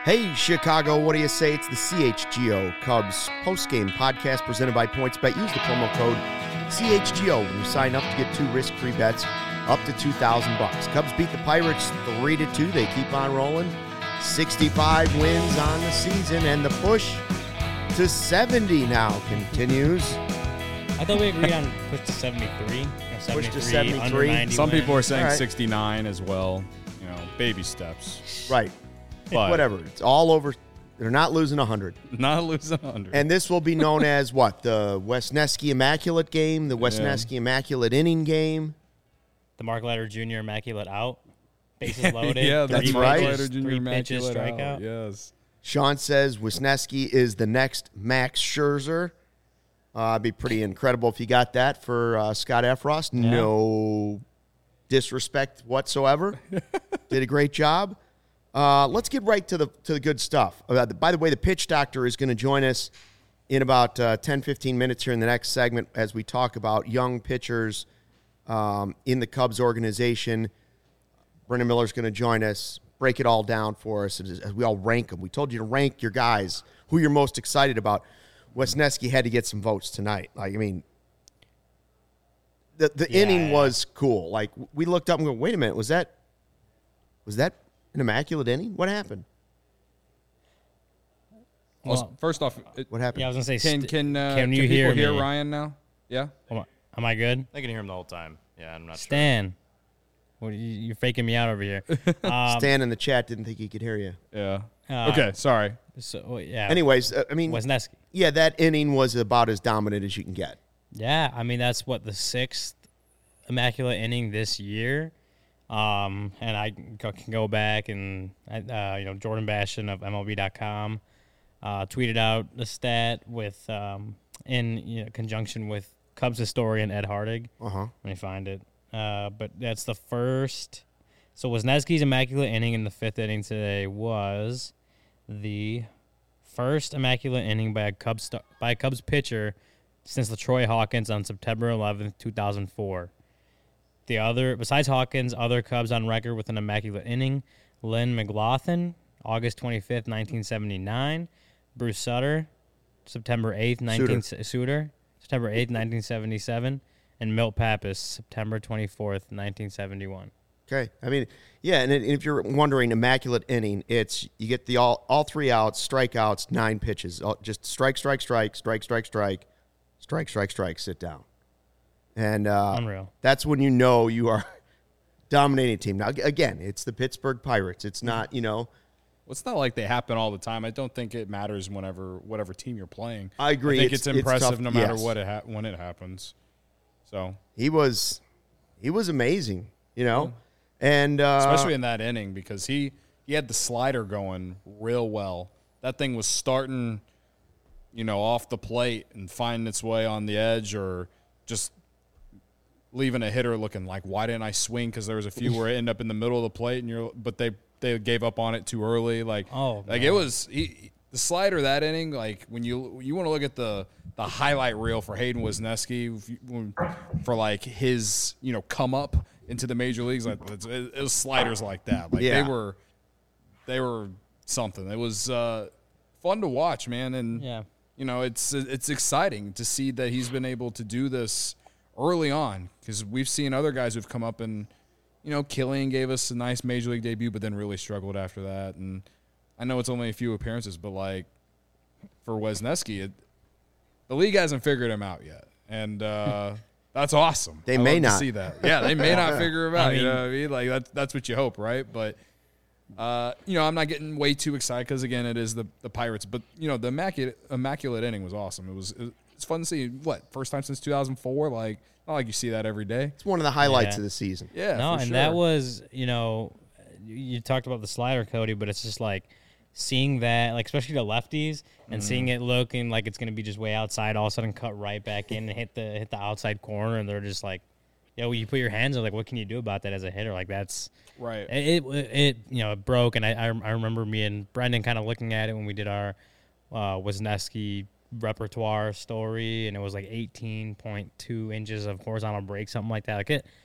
Hey, Chicago, what do you say? It's the CHGO Cubs post-game podcast presented by PointsBet. Use the promo code CHGO when you sign up to get 2 risk-free bets up to $2,000. Cubs beat the Pirates 3-2. They keep on rolling. 65 wins on the season, and the push to 70 now continues. I thought we agreed on push to 73. Push to 73. Some people are saying All right. 69 as well. You know, baby steps. Right. But Whatever. It's all over. They're not losing 100. not losing 100. And this will be known as what? The Wesneski Immaculate game, the Wesneski Immaculate Inning game. The Mark Leiter Jr. Immaculate out. Bases loaded. yeah, That's three right. pitches, Jr. 3 pitches, Immaculate strikeout. out. Yes. Sean says Wisniewski is the next Max Scherzer. It'd be pretty incredible if you got that for Scott Efros. Yeah. No disrespect whatsoever. Did a great job. Let's get right to the good stuff. By the way, the pitch doctor is going to join us in about 10, 15 minutes here in the next segment as we talk about young pitchers in the Cubs organization. Brendan Miller's going to join us, break it all down for us as we all rank them. We told you to rank your guys, who you're most excited about. Wesneski had to get some votes tonight. Like, I mean, the inning was cool. Like, we looked up and go, wait a minute, was that an immaculate inning? What happened? Well, First off, What happened? yeah, I was going to say, can you people hear me? Ryan now? Yeah? Am I good? I can hear him the whole time. Yeah, I'm not Stan. Well, you're faking me out over here. Stan in the chat didn't think he could hear you. Yeah. Uh, Okay, sorry. So, yeah. Anyways, I mean, Wesneski. yeah, that inning was about as dominant as you can get. Yeah, I mean, that's what, the 6th Immaculate inning this year. And I can go back and, Jordan Bastion of MLB.com tweeted out the stat with in conjunction with Cubs historian Ed Hardig. Uh-huh. Let me find it. But that's the first. So Wisniewski's Immaculate inning in the 5th inning today was the first Immaculate inning by a Cubs pitcher since LaTroy Hawkins on September 11th, 2004. The other, besides Hawkins, other Cubs on record with an Immaculate inning: Lynn McLaughlin, August 25th, 1979; Bruce Sutter, September 8th, September 8th, 1977; and Milt Pappas, September 24th, 1971. Okay. I mean, yeah, and if you're wondering, immaculate inning, it's you get the all 3 outs, strikeouts, 9 pitches. Just strike, strike, strike, strike, strike, strike, strike, strike, strike, sit down. And Unreal. That's when you know you are dominating a team. Now, again, it's the Pittsburgh Pirates. It's not, Well, it's not like they happen all the time. I don't think it matters whatever team you're playing. I agree. I think it's impressive tough, no matter yes. when it happens. So He was amazing, and especially in that inning because he had the slider going real well. That thing was starting, off the plate and finding its way on the edge or just leaving a hitter looking like, why didn't I swing? Because there was a few where it ended up in the middle of the plate, but they gave up on it too early. It was the slider that inning. Like when you want to look at the highlight reel for Hayden Wesneski for like his come up into the major leagues, like it was sliders like that. Like Yeah. they were something. It was fun to watch, man, and Yeah. it's exciting to see that he's been able to do this early on because we've seen other guys who've come up and, Killian gave us a nice major league debut, but then really struggled after that. And I know it's only a few appearances, but like for Wesneski, the league hasn't figured him out yet, and that's awesome. They I may love to not. see that. Yeah, they may not figure him out. I You mean- know what I mean? Like that's what you hope, right? But I'm not getting way too excited because again, it is the Pirates. But the immaculate inning was awesome. It's fun to see. First time since 2004. Like not like you see that every day. it's one of the highlights Yeah. of the season. Yeah, No, for and sure. that was, you talked about the slider, Cody, but it's just like seeing that, like especially the lefties, and seeing it looking like it's going to be just way outside, all of a sudden cut right back in and hit the outside corner, and they're just like, you put your hands on, like, what can you do about that as a hitter? Like that's right. it broke, and I remember me and Brendan kind of looking at it when we did our Wisniewski repertoire story, and it was like 18.2 inches of horizontal break, something like that. Like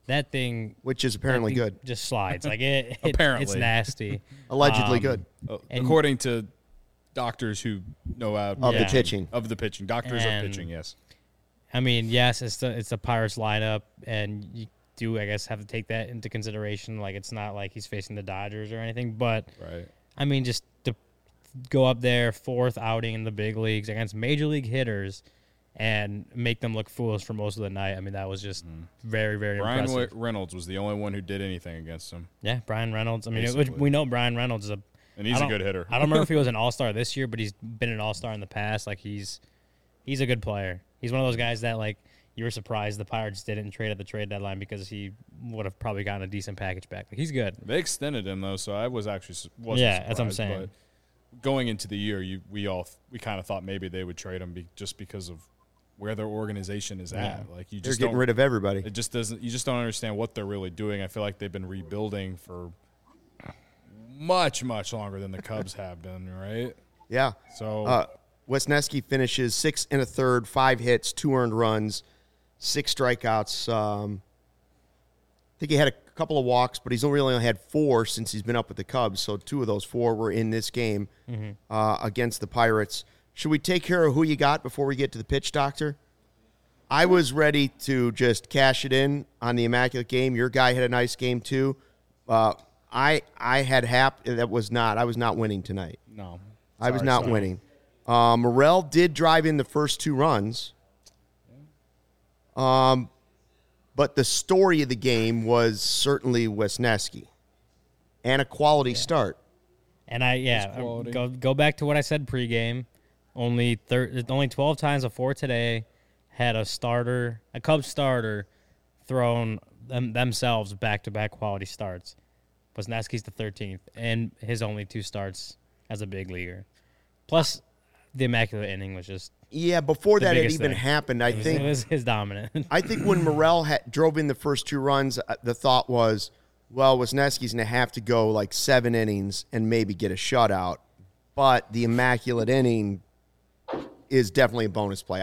that thing which is apparently that thing good. just slides. Like it's Apparently. nasty. Allegedly good. And- According to doctors who know Of the Yeah. pitching. of the pitching, doctors of And- pitching, yes. I mean, yes, it's the Pirates lineup, and you do, I guess, have to take that into consideration. Like, it's not like he's facing the Dodgers or anything, but Right. I mean, just to go up there, 4th outing in the big leagues against major league hitters and make them look foolish for most of the night. I mean, that was just very, very Brian impressive. Reynolds was the only one who did anything against him, Yeah, Brian Reynolds. I mean, Basically. we know Brian Reynolds is and he's I a don't- good hitter. I don't remember if he was an All-Star this year, but he's been an All-Star in the past. Like, he's a good player. He's one of those guys that, like, you were surprised the Pirates didn't trade at the trade deadline because he would have probably gotten a decent package back. Like, he's good. They extended him though, so I was actually wasn't Yeah, that's what I'm surprised, saying. But going into the year, we kind of thought maybe they would trade him just because of where their organization is at. Like you They're just getting don't, rid of everybody. it just doesn't. You just don't understand what they're really doing. I feel like they've been rebuilding for much longer than the Cubs have been. Right. Yeah. So Wisniewski finishes 6 1/3, 5 hits, 2 earned runs, 6 strikeouts. I think he had a couple of walks, but he's only had 4 since he's been up with the Cubs. So 2 of those 4 were in this game against the Pirates. Should we take care of who you got before we get to the pitch doctor? I was ready to just cash it in on the Immaculate Game. Your guy had a nice game too. I had Hap. I was not winning tonight. no, I was Sorry, not sorry. winning. Morel did drive in the first 2 runs. But the story of the game was certainly Wisniewski and a quality start. And quality. go back to what I said pregame. Only 12 times before today had a Cubs starter, thrown themselves back-to-back quality starts. Wisniewski's the 13th, and his only 2 starts as a big leaguer. Plus, the Immaculate Inning was just Yeah, before The that had biggest even thing. happened, I it think was his dominant. I think when Morel drove in the first 2 runs, the thought was, well, Wisniewski's going to have to go like 7 innings and maybe get a shutout. But the Immaculate Inning is definitely a bonus play.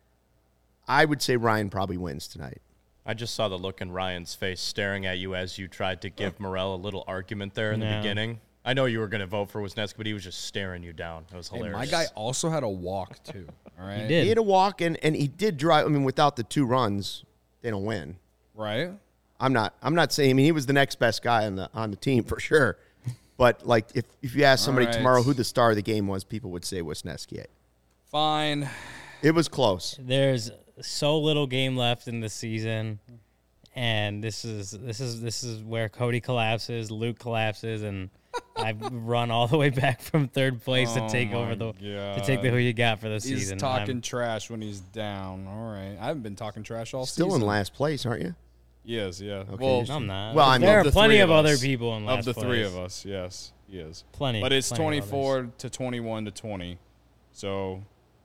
I would say Ryan probably wins tonight. I just saw the look in Ryan's face staring at you as you tried to give Morel a little argument there in the No. beginning. I know you were going to vote for Wisniewski, but he was just staring you down. It was Hey, hilarious. my guy also had a walk too. All right. He did. He had a walk, and he did drive. I mean, without the 2 runs, they don't win. Right. I'm not saying. I mean, he was the next best guy on the team for sure. But like, if you ask somebody All right. tomorrow who the star of the game was, people would say Wisniewski. Fine. It was close. There's so little game left in the season, and this is where Cody collapses, Luke collapses, and I've run all the way back from 3rd place to Oh take over my to take the who you got for the He's season. talking trash when he's down. All right. I haven't been talking trash all Still season. in last place, aren't you? He is, yeah. Okay, Well, you're I'm not. Well, I mean, there of are the plenty three of other us. people in last of the place. 3 of us, yes, he is. Plenty. But it's plenty of 24 to 21 to 20. So,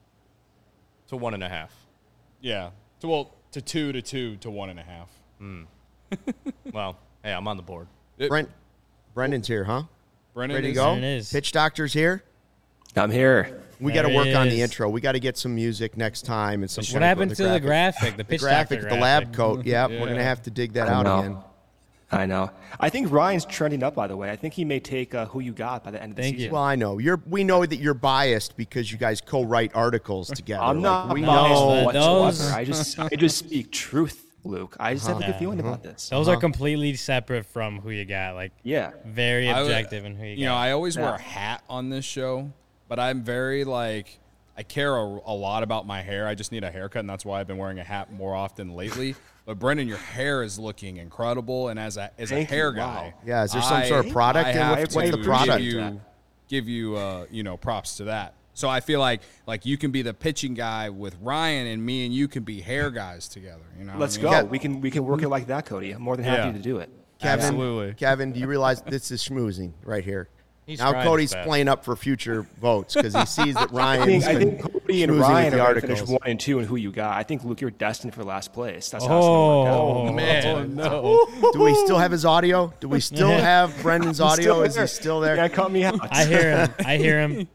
to 1.5. yeah. To 2 to 2 to 1.5. Well, hey, I'm on the board. Brendan's here, huh? Brennan Ready to is- go? There it is. Pitch doctor's here. I'm here. We got to There work it on the is. intro. We got to get some music next time and some. What happened to the graphic? The The pitch graphic, doctor the lab graphic. coat. Yeah, we're Yeah. gonna have to dig that I out know. again. I know. I think Ryan's trending up, by the way. I think he may take Who You Got by the end of the Thank season. you. Well, I know we know that you're biased because you guys co-write articles together. I'm not we biased know. but whatsoever. those- I just speak truth, Luke. I just have a good feeling about this. Those are completely separate from who you got. Like Yeah. very I would- objective in who you got. You know, I always wear Yeah. a hat on this show, but I'm very like I care a lot about my hair. I just need a haircut, and that's why I've been wearing a hat more often lately. But Brendan, your hair is looking incredible, and as a Thank hair you. guy, Wow. Yeah, is there some sort of product? I And have what's the to product? Give you props to that. So I feel like you can be the pitching guy with Ryan, and me and you can be hair guys together. You know, Let's what I go. mean? We can work it like that, Cody. I'm more than happy Yeah. to do it. Kevin, Absolutely. Kevin, do you realize this is schmoozing right here? He's Now trying Cody's his best. playing up for future votes because he sees that I Ryan's think Cody and schmoozing Ryan with are the going to finish articles. 1 and 2 in Who You Got. I think, Luke, you're destined for last place. That's how it's going to work out. Oh Man, no. Do we still have his audio? Do we still have Brendan's audio? Is he there. still Yeah, there? cut me out. I hear him.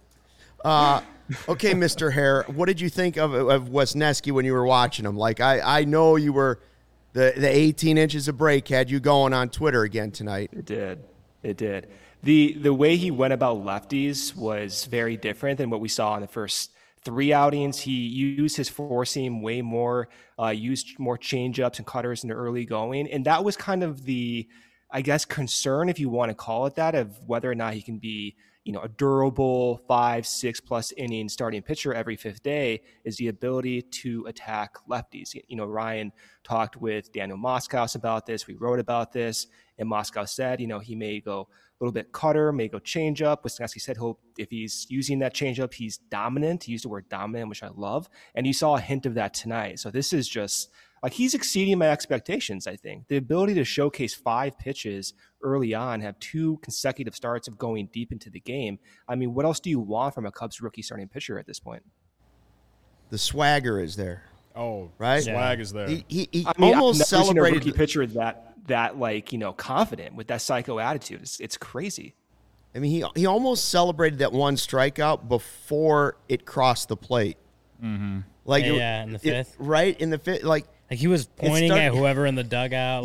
Okay, Mr. Hare, what did you think of Wisniewski when you were watching him? Like, I know you were The 18 inches of break had you going on Twitter again tonight. It did. It did. The way he went about lefties was very different than what we saw in the first 3 outings. He used his four seam way more, used more changeups and cutters in the early going. And that was kind of the, I guess, concern, if you want to call it that, of whether or not he can be, a durable 5-6+ inning starting pitcher every fifth day, is the ability to attack lefties. Ryan talked with Daniel Moskowitz about this. We wrote about this, and Moskowitz said, he may go a little bit cutter, may go changeup. Wisniewski said if he's using that changeup, he's dominant. He used the word dominant, which I love. And you saw a hint of that tonight. So this is just he's exceeding my expectations, I think. The ability to showcase 5 pitches early on, have 2 consecutive starts of going deep into the game. I mean, what else do you want from a Cubs rookie starting pitcher at this point? The swagger is there. Oh, right. Swag is there. He almost celebrated a rookie pitcher that confident with that psycho attitude. It's crazy. I mean, he almost celebrated that one strikeout before it crossed the plate. Mm-hmm. In the fifth, right in the fifth, like he was pointing at whoever in the dugout.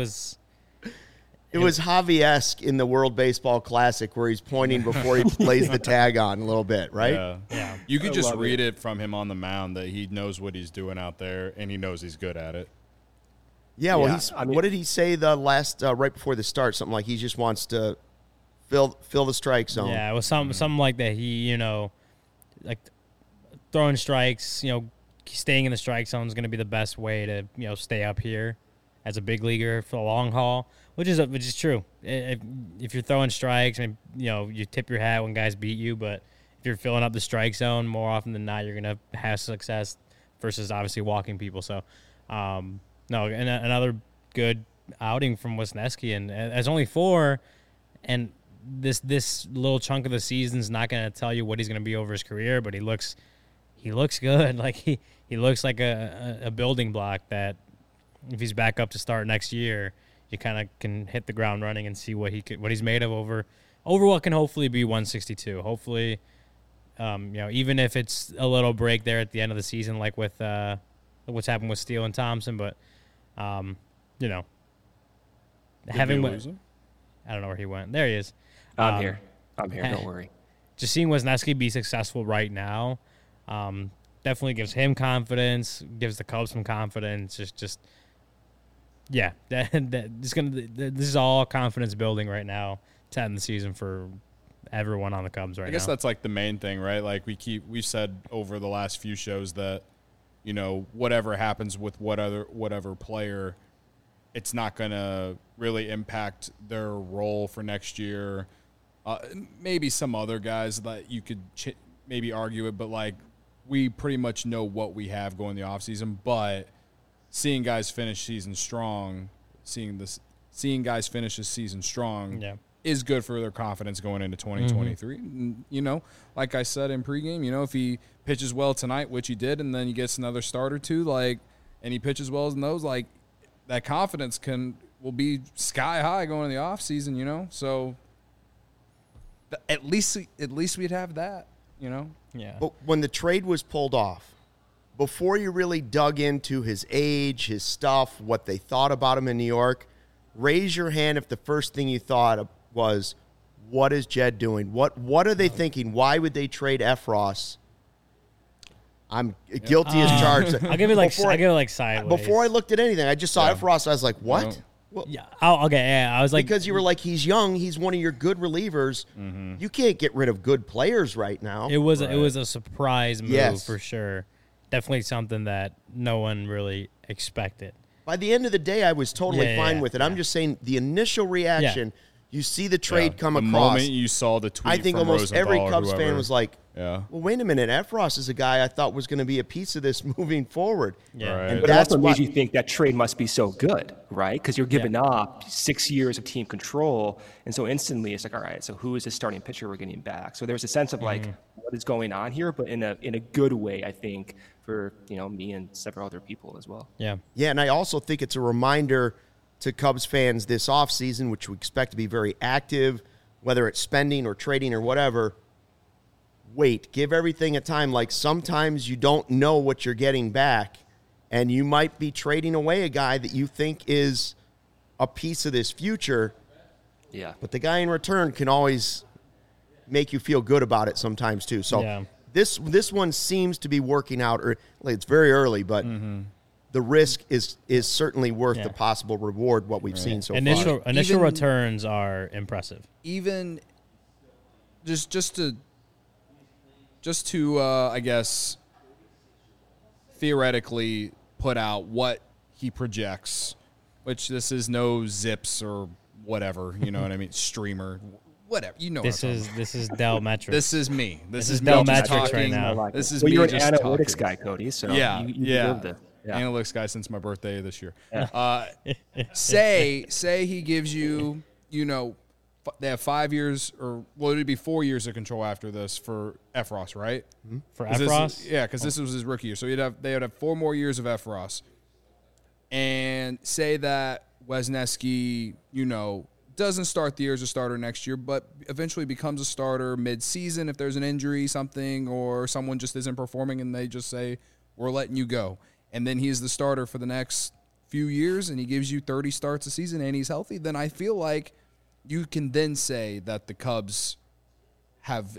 It was Javi-esque in the World Baseball Classic, where he's pointing before he lays the tag on a little bit, right? Yeah. You could just read it from him on the mound that he knows what he's doing out there, and he knows he's good at it. Yeah, well, what did he say the last right before the start? Something like he just wants to fill the strike zone. Yeah, it was something like that. He, like throwing strikes, staying in the strike zone is going to be the best way to, stay up here as a big leaguer for the long haul, which is true. If you're throwing strikes, you tip your hat when guys beat you, but if you're filling up the strike zone, more often than not, you're going to have success versus obviously walking people. So, another good outing from Wisniewski, and as only 4, and this little chunk of the season's not going to tell you what he's going to be over his career, but he looks good. Like he looks like a building block that if he's back up to start next year, you kind of can hit the ground running and see what he's made of over what can hopefully be 162. Hopefully, even if it's a little break there at the end of the season, like with what's happened with Steele and Thompson, but having I don't know where he went. There he is. I'm here. Don't worry. Just seeing Wisniewski be successful right now definitely gives him confidence, gives the Cubs some confidence. This is all confidence building right now to end the season for everyone on the Cubs right now. I guess that's like the main thing, right? Like we've said over the last few shows that, whatever happens with whatever player, it's not going to really impact their role for next year. Maybe some other guys that you could maybe argue it, but like we pretty much know what we have going the offseason. But seeing guys finish season strong, seeing guys finish this season strong is good for their confidence going into 2023. Mm-hmm. Like I said in pregame, if he pitches well tonight, which he did, and then he gets another start or two, and he pitches well in those, that confidence will be sky high going in the offseason, So at least we'd have that, Yeah. But when the trade was pulled off, before you really dug into his age, his stuff, what they thought about him in New York, raise your hand if the first thing you thought was, what is Jed doing? What are they thinking? Why would they trade Effross? I'm guilty as charged. I'll give it like sideways. Before I looked at anything, I just saw Effross. I was like, what? Well, I was like, because you were like, he's young. He's one of your good relievers. Mm-hmm. You can't get rid of good players right now. It was a surprise move for sure. Definitely something that no one really expected. By the end of the day, I was totally fine with it. I'm just saying the initial reaction. You see the trade come across. The moment you saw the tweet, I think from almost Rosenthal every Cubs fan was like, well, wait a minute. Effross is a guy I thought was going to be a piece of this moving forward. Yeah. Right. And but it also made you think that trade must be so good, right? Because you're giving up 6 years of team control. And so instantly it's like, all right, so who is this starting pitcher we're getting back? So there's a sense of what is going on here, but in a good way, I think, for me and several other people as well. Yeah. Yeah, and I also think it's a reminder to Cubs fans this offseason, which we expect to be very active, whether it's spending or trading or whatever. Wait, give everything a time. Like sometimes you don't know what you're getting back, and you might be trading away a guy that you think is a piece of this future. Yeah. But the guy in return can always make you feel good about it sometimes too. So this one seems to be working out. Or it's very early, but the risk is certainly worth the possible reward. What we've seen so far. Initial returns are impressive. Even just to I guess theoretically put out what he projects, which this is no Zips or whatever, you know what I mean, streamer, whatever, you know. This is Dell Metrics. This is me. This is Dell me just Metrics talking. right now. This is well, me you're an just analytics talking. guy, Cody. So Yeah, you yeah. deserve it. Yeah. Analytics guy since my birthday this year. Say he gives you, they have 5 years, or well, it'd be 4 years of control after this for Efros, right? For Efros? Because this was his rookie year, so they would have 4 more years of Efros. And say that Wisniewski, doesn't start the year as a starter next year, but eventually becomes a starter mid-season if there's an injury, something, or someone just isn't performing, and they just say, we're letting you go. And then he's the starter for the next few years, and he gives you 30 starts a season, and he's healthy, then I feel like you can then say that the Cubs have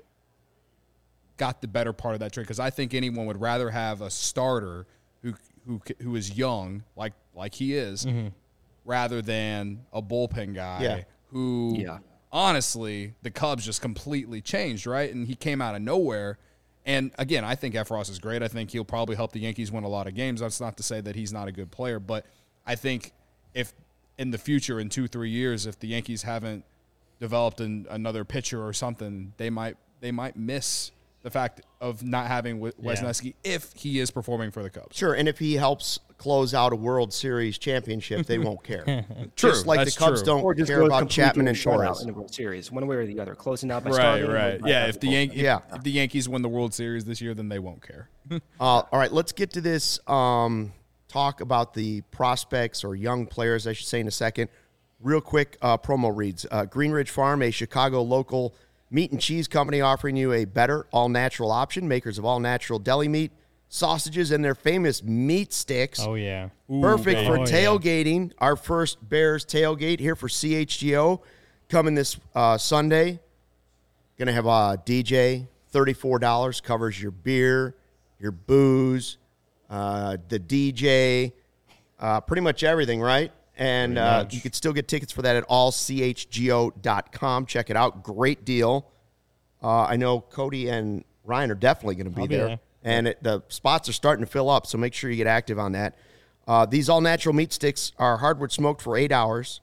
got the better part of that trade, because I think anyone would rather have a starter who is young, like he is, rather than a bullpen guy who, honestly, the Cubs just completely changed, right? And he came out of nowhere. And, again, I think Efros is great. I think he'll probably help the Yankees win a lot of games. That's not to say that he's not a good player. But I think if in the future, in 2-3 years, if the Yankees haven't developed another pitcher or something, they might miss the fact of not having Wisniewski if he is performing for the Cubs. Sure, and if he helps close out a World Series championship, they won't care. True, Just like the Cubs don't care about Chapman and Torres in the World Series, one way or the other, closing out by Right. starting. Yeah, if the Yankees win the World Series this year, then they won't care. all right, let's get to this talk about the prospects or young players, I should say, in a second. Real quick promo reads. Green Ridge Farm, a Chicago local meat and cheese company offering you a better all-natural option. Makers of all-natural deli meat, sausages, and their famous meat sticks. Oh, yeah. Perfect for tailgating. Our first Bears tailgate here for CHGO coming this Sunday. Going to have a DJ, $34, covers your beer, your booze, the DJ, pretty much everything, right? And you could still get tickets for that at allchgo.com. Check it out. Great deal. I know Cody and Ryan are definitely going to be there. And the spots are starting to fill up, so make sure you get active on that. These all-natural meat sticks are hardwood smoked for 8 hours.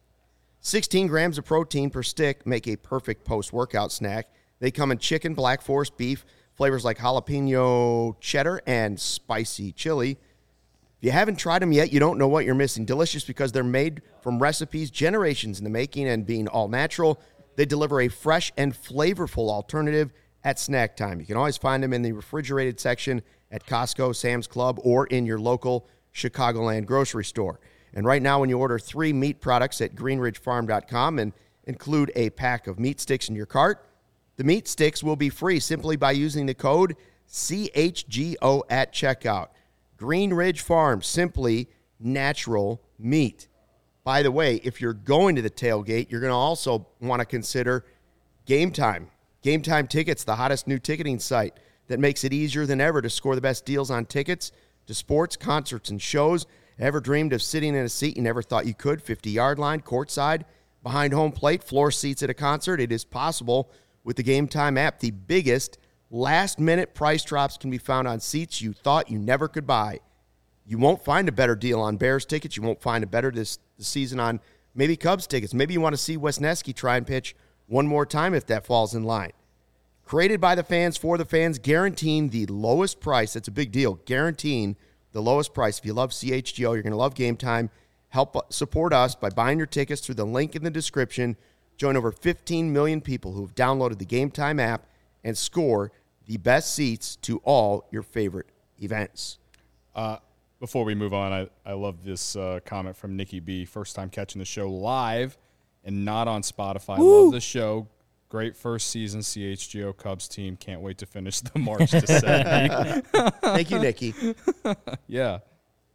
16 grams of protein per stick make a perfect post-workout snack. They come in chicken, Black Forest beef, flavors like jalapeno cheddar, and spicy chili. If you haven't tried them yet, you don't know what you're missing. Delicious because they're made from recipes generations in the making, and being all natural, they deliver a fresh and flavorful alternative at snack time. You can always find them in the refrigerated section at Costco, Sam's Club, or in your local Chicagoland grocery store. And right now, when you order 3 meat products at greenridgefarm.com and include a pack of meat sticks in your cart, the meat sticks will be free simply by using the code CHGO at checkout. Green Ridge Farm, simply natural meat. By the way, if you're going to the tailgate, you're going to also want to consider Game Time. Game Time Tickets, the hottest new ticketing site that makes it easier than ever to score the best deals on tickets to sports, concerts, and shows. Ever dreamed of sitting in a seat you never thought you could? 50-yard line, courtside, behind home plate, floor seats at a concert. It is possible with the Game Time app. The biggest last-minute price drops can be found on seats you thought you never could buy. You won't find a better deal on Bears tickets. You won't find a better this season on maybe Cubs tickets. Maybe you want to see Wisniewski try and pitch one more time if that falls in line. Created by the fans for the fans, guaranteeing the lowest price. That's a big deal. Guaranteeing the lowest price. If you love CHGO, you're going to love Game Time. Help support us by buying your tickets through the link in the description. Join over 15 million people who have downloaded the Game Time app and score the best seats to all your favorite events. Before we move on, I love this comment from Nikki B. First time catching the show live and not on Spotify. Woo! Love the show. Great first season CHGO Cubs team. Can't wait to finish the march to 70. Thank you, Nikki. Yeah.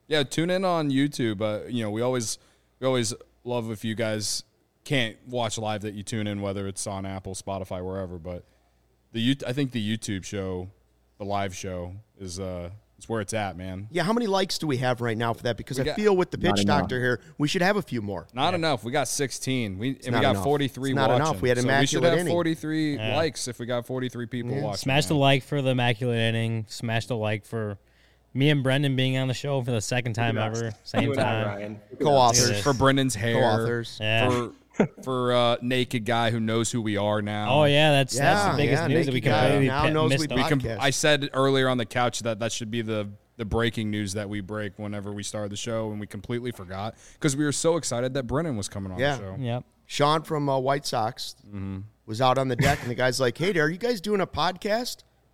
Yeah, tune in on YouTube. We always love if you guys can't watch live that you tune in, whether it's on Apple, Spotify, wherever. But I think the YouTube show, the live show, is where it's at, man. Yeah, how many likes do we have right now for that? Because I got- feel with the pitch enough. doctor here, we should have a few more. Not enough. We got 16. We not got enough. 43 It's not watching. enough. We had so we should immaculate have inning. 43 Yeah. likes if we got 43 people watching. Smash the man. like for the immaculate inning. Smash the like for me and Brendan being on the show for the second time ever. Same You and I, time. Ryan. Co-authors. for Brendan's hair. Co-authors. Yeah. For naked guy who knows who we are now. Oh yeah, that's Yeah, the biggest yeah, news that we Naked Guy completely now knows missed. we the- podcast. I said earlier on the couch that should be the breaking news that we break whenever we start the show, and we completely forgot because we were so excited that Brennan was coming on Yeah. the show. Yep. Sean from White Sox was out on the deck, and the guy's like, "Hey, are you guys doing a podcast?"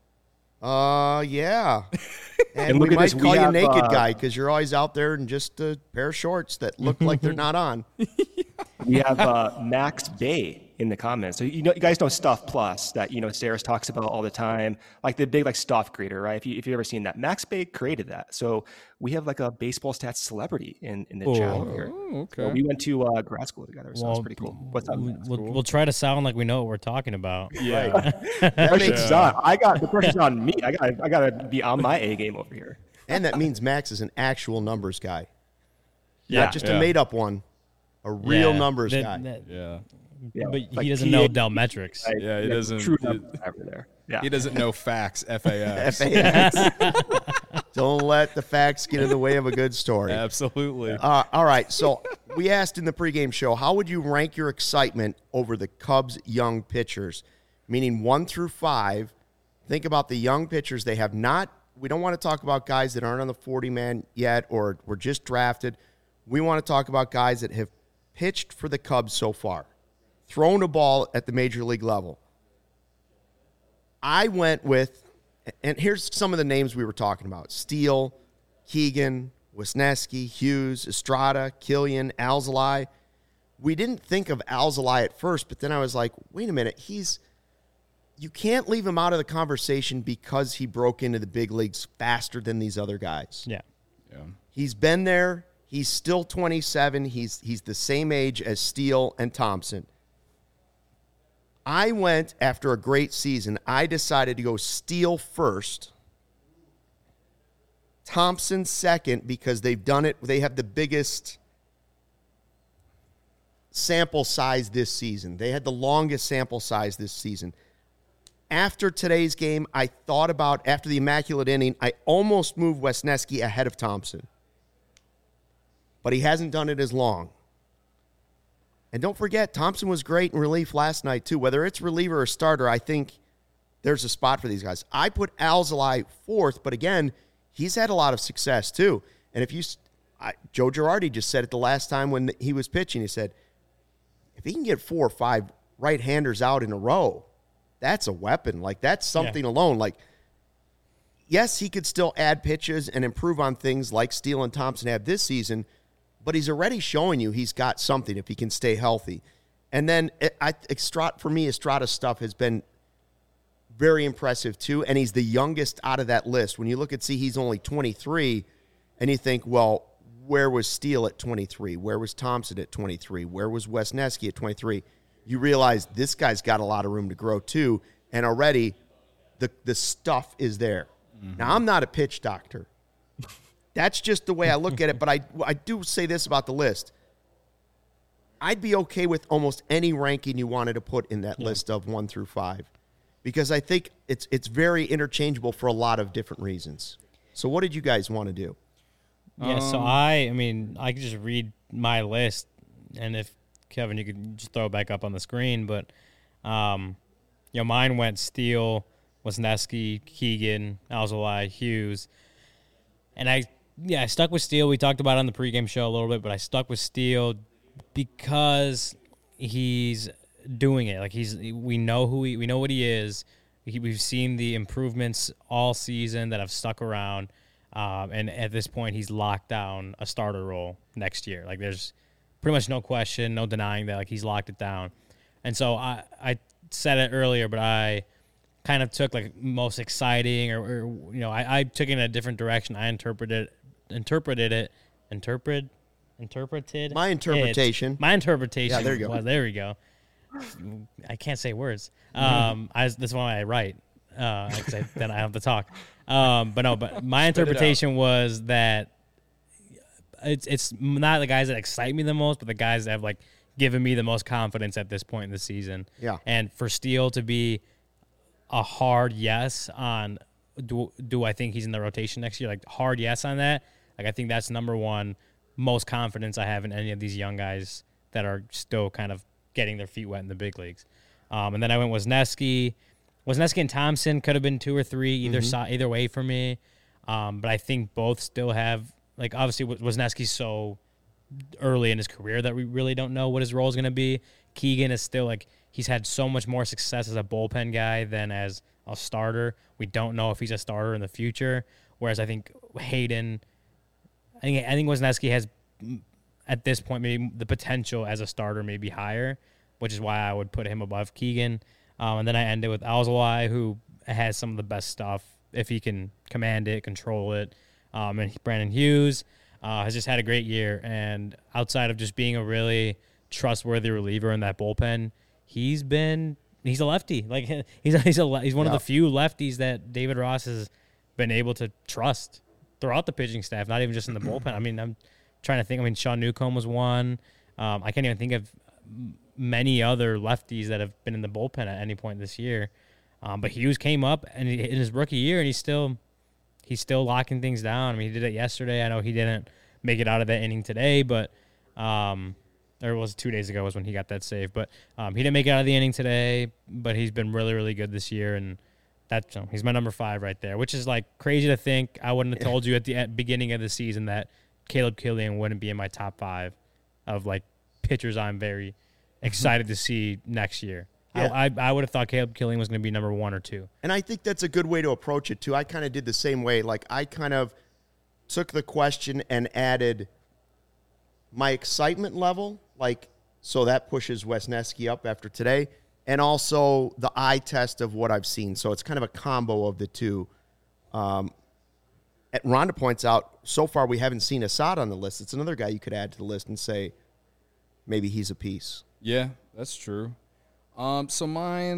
Yeah. And look we at might this, we call you have, Naked Guy because you're always out there in just a pair of shorts that look like they're not on. We have Max Bay in the comments. So you guys know Stuff Plus that Saris talks about all the time, like the big stuff creator, right? If you've ever seen that, Max Bay created that. So we have like a baseball stats celebrity in the channel here. Oh, okay. So we went to grad school together, so it's pretty cool. What's up, Max? We'll try to sound like we know what we're talking about. Yeah. That makes, The pressure's on me. I gotta be on my A game over here. and that means Max is an actual numbers guy, Yeah. not just a Yeah. made up one, a real Yeah, numbs that- guy. that- Yeah. Yeah, But like he doesn't PA, know Dell metrics. right? Yeah, he doesn't- True numbers over there. Yeah. He doesn't know facts. FAX. FAX. Don't let the facts get in the way of a good story. Absolutely. All right. So we asked in the pregame show, how would you rank your excitement over the Cubs' young pitchers? Meaning 1 through 5. Think about the young pitchers. They have not, we don't want to talk about guys that aren't on the 40-man yet or were just drafted. We want to talk about guys that have pitched for the Cubs so far, thrown a ball at the major league level. I went with, and here's some of the names we were talking about: Steele, Keegan, Wisniewski, Hughes, Estrada, Killian, Alzolay. We didn't think of Alzolay at first, but then I was like, wait a minute, you can't leave him out of the conversation because he broke into the big leagues faster than these other guys. Yeah. Yeah. He's been there. He's still 27. He's the same age as Steele and Thompson. I went, after a great season, I decided to go Steele first, Thompson second, because they've done it. They have the biggest sample size this season. They had the longest sample size this season. After today's game, I thought about, after the immaculate inning, I almost moved Wisniewski ahead of Thompson. But he hasn't done it as long. And don't forget, Thompson was great in relief last night, too. Whether it's reliever or starter, I think there's a spot for these guys. I put Alzolay fourth, but again, he's had a lot of success, too. And if Joe Girardi just said it the last time when he was pitching. He said, if he can get 4 or 5 right-handers out in a row, that's a weapon. Like, that's something alone. Like, yes, he could still add pitches and improve on things like Steele and Thompson have this season, but he's already showing you he's got something if he can stay healthy. And then, for me, Estrada's stuff has been very impressive, too, and he's the youngest out of that list. When you look he's only 23, and you think, well, where was Steele at 23? Where was Thompson at 23? Where was Wisniewski at 23? You realize this guy's got a lot of room to grow, too, and already the stuff is there. Mm-hmm. Now, I'm not a pitch doctor. That's just the way I look at it, but I do say this about the list. I'd be okay with almost any ranking you wanted to put in that list of 1 through 5 because I think it's very interchangeable for a lot of different reasons. So what did you guys want to do? Yeah, so I could just read my list, and if, Kevin, you could just throw it back up on the screen, but, mine went Steele, Wisniewski, Keegan, Alzolay, Hughes, and I stuck with Steele. We talked about it on the pregame show a little bit, but I stuck with Steele because he's doing it. Like we know we know what he is. We've seen the improvements all season that have stuck around, and at this point, he's locked down a starter role next year. Like there's pretty much no question, no denying that. Like he's locked it down, and so I said it earlier, but I kind of took like most exciting, or I took it in a different direction. I interpreted it interpreted it. My interpretation. My interpretation. Yeah, there you go. Was, there we go. I can't say words. This one I write. Then I have to talk. But my interpretation was that it's not the guys that excite me the most, but the guys that have like given me the most confidence at this point in the season. Yeah. And for Steele to be a hard yes on do I think he's in the rotation next year? Like hard yes on that. Like I think that's number one most confidence I have in any of these young guys that are still kind of getting their feet wet in the big leagues. And then I went Wisniewski. Wisniewski and Thompson could have been 2 or 3 either way for me. But I think both still have, like, obviously Wisniewski's so early in his career that we really don't know what his role is going to be. Keegan is still, like, he's had so much more success as a bullpen guy than as a starter. We don't know if he's a starter in the future. Whereas I think Hayden, I think Wisniewski has, at this point, maybe the potential as a starter may be higher, which is why I would put him above Keegan. And then I ended with Alzolay, who has some of the best stuff if he can command it, control it. And Brandon Hughes has just had a great year. And outside of just being a really trustworthy reliever in that bullpen, he's a lefty. Like he's one of the few lefties that David Ross has been able to trust throughout the pitching staff, not even just in the bullpen. I mean, I'm trying to think. I mean, Sean Newcomb was one. I can't even think of many other lefties that have been in the bullpen at any point this year. But Hughes came up and in his rookie year, and he's still locking things down. I mean, he did it yesterday. I know he didn't make it out of that inning today, but or it was 2 days ago was when he got that save. But he didn't make it out of the inning today, but he's been really, really good this year, and that's he's my number 5 right there, which is like crazy to think. I wouldn't have told you at the beginning of the season that Caleb Killian wouldn't be in my top 5 of like pitchers I'm very excited to see next year. Yeah. I would have thought Caleb Killian was going to be number 1 or 2. And I think that's a good way to approach it, too. I kind of did the same way. Like, I kind of took the question and added my excitement level, like, so that pushes Wisniewski up after today, and also the eye test of what I've seen. So it's kind of a combo of the two. Rhonda points out, so far we haven't seen Assad on the list. It's another guy you could add to the list and say maybe he's a piece. Yeah, that's true. So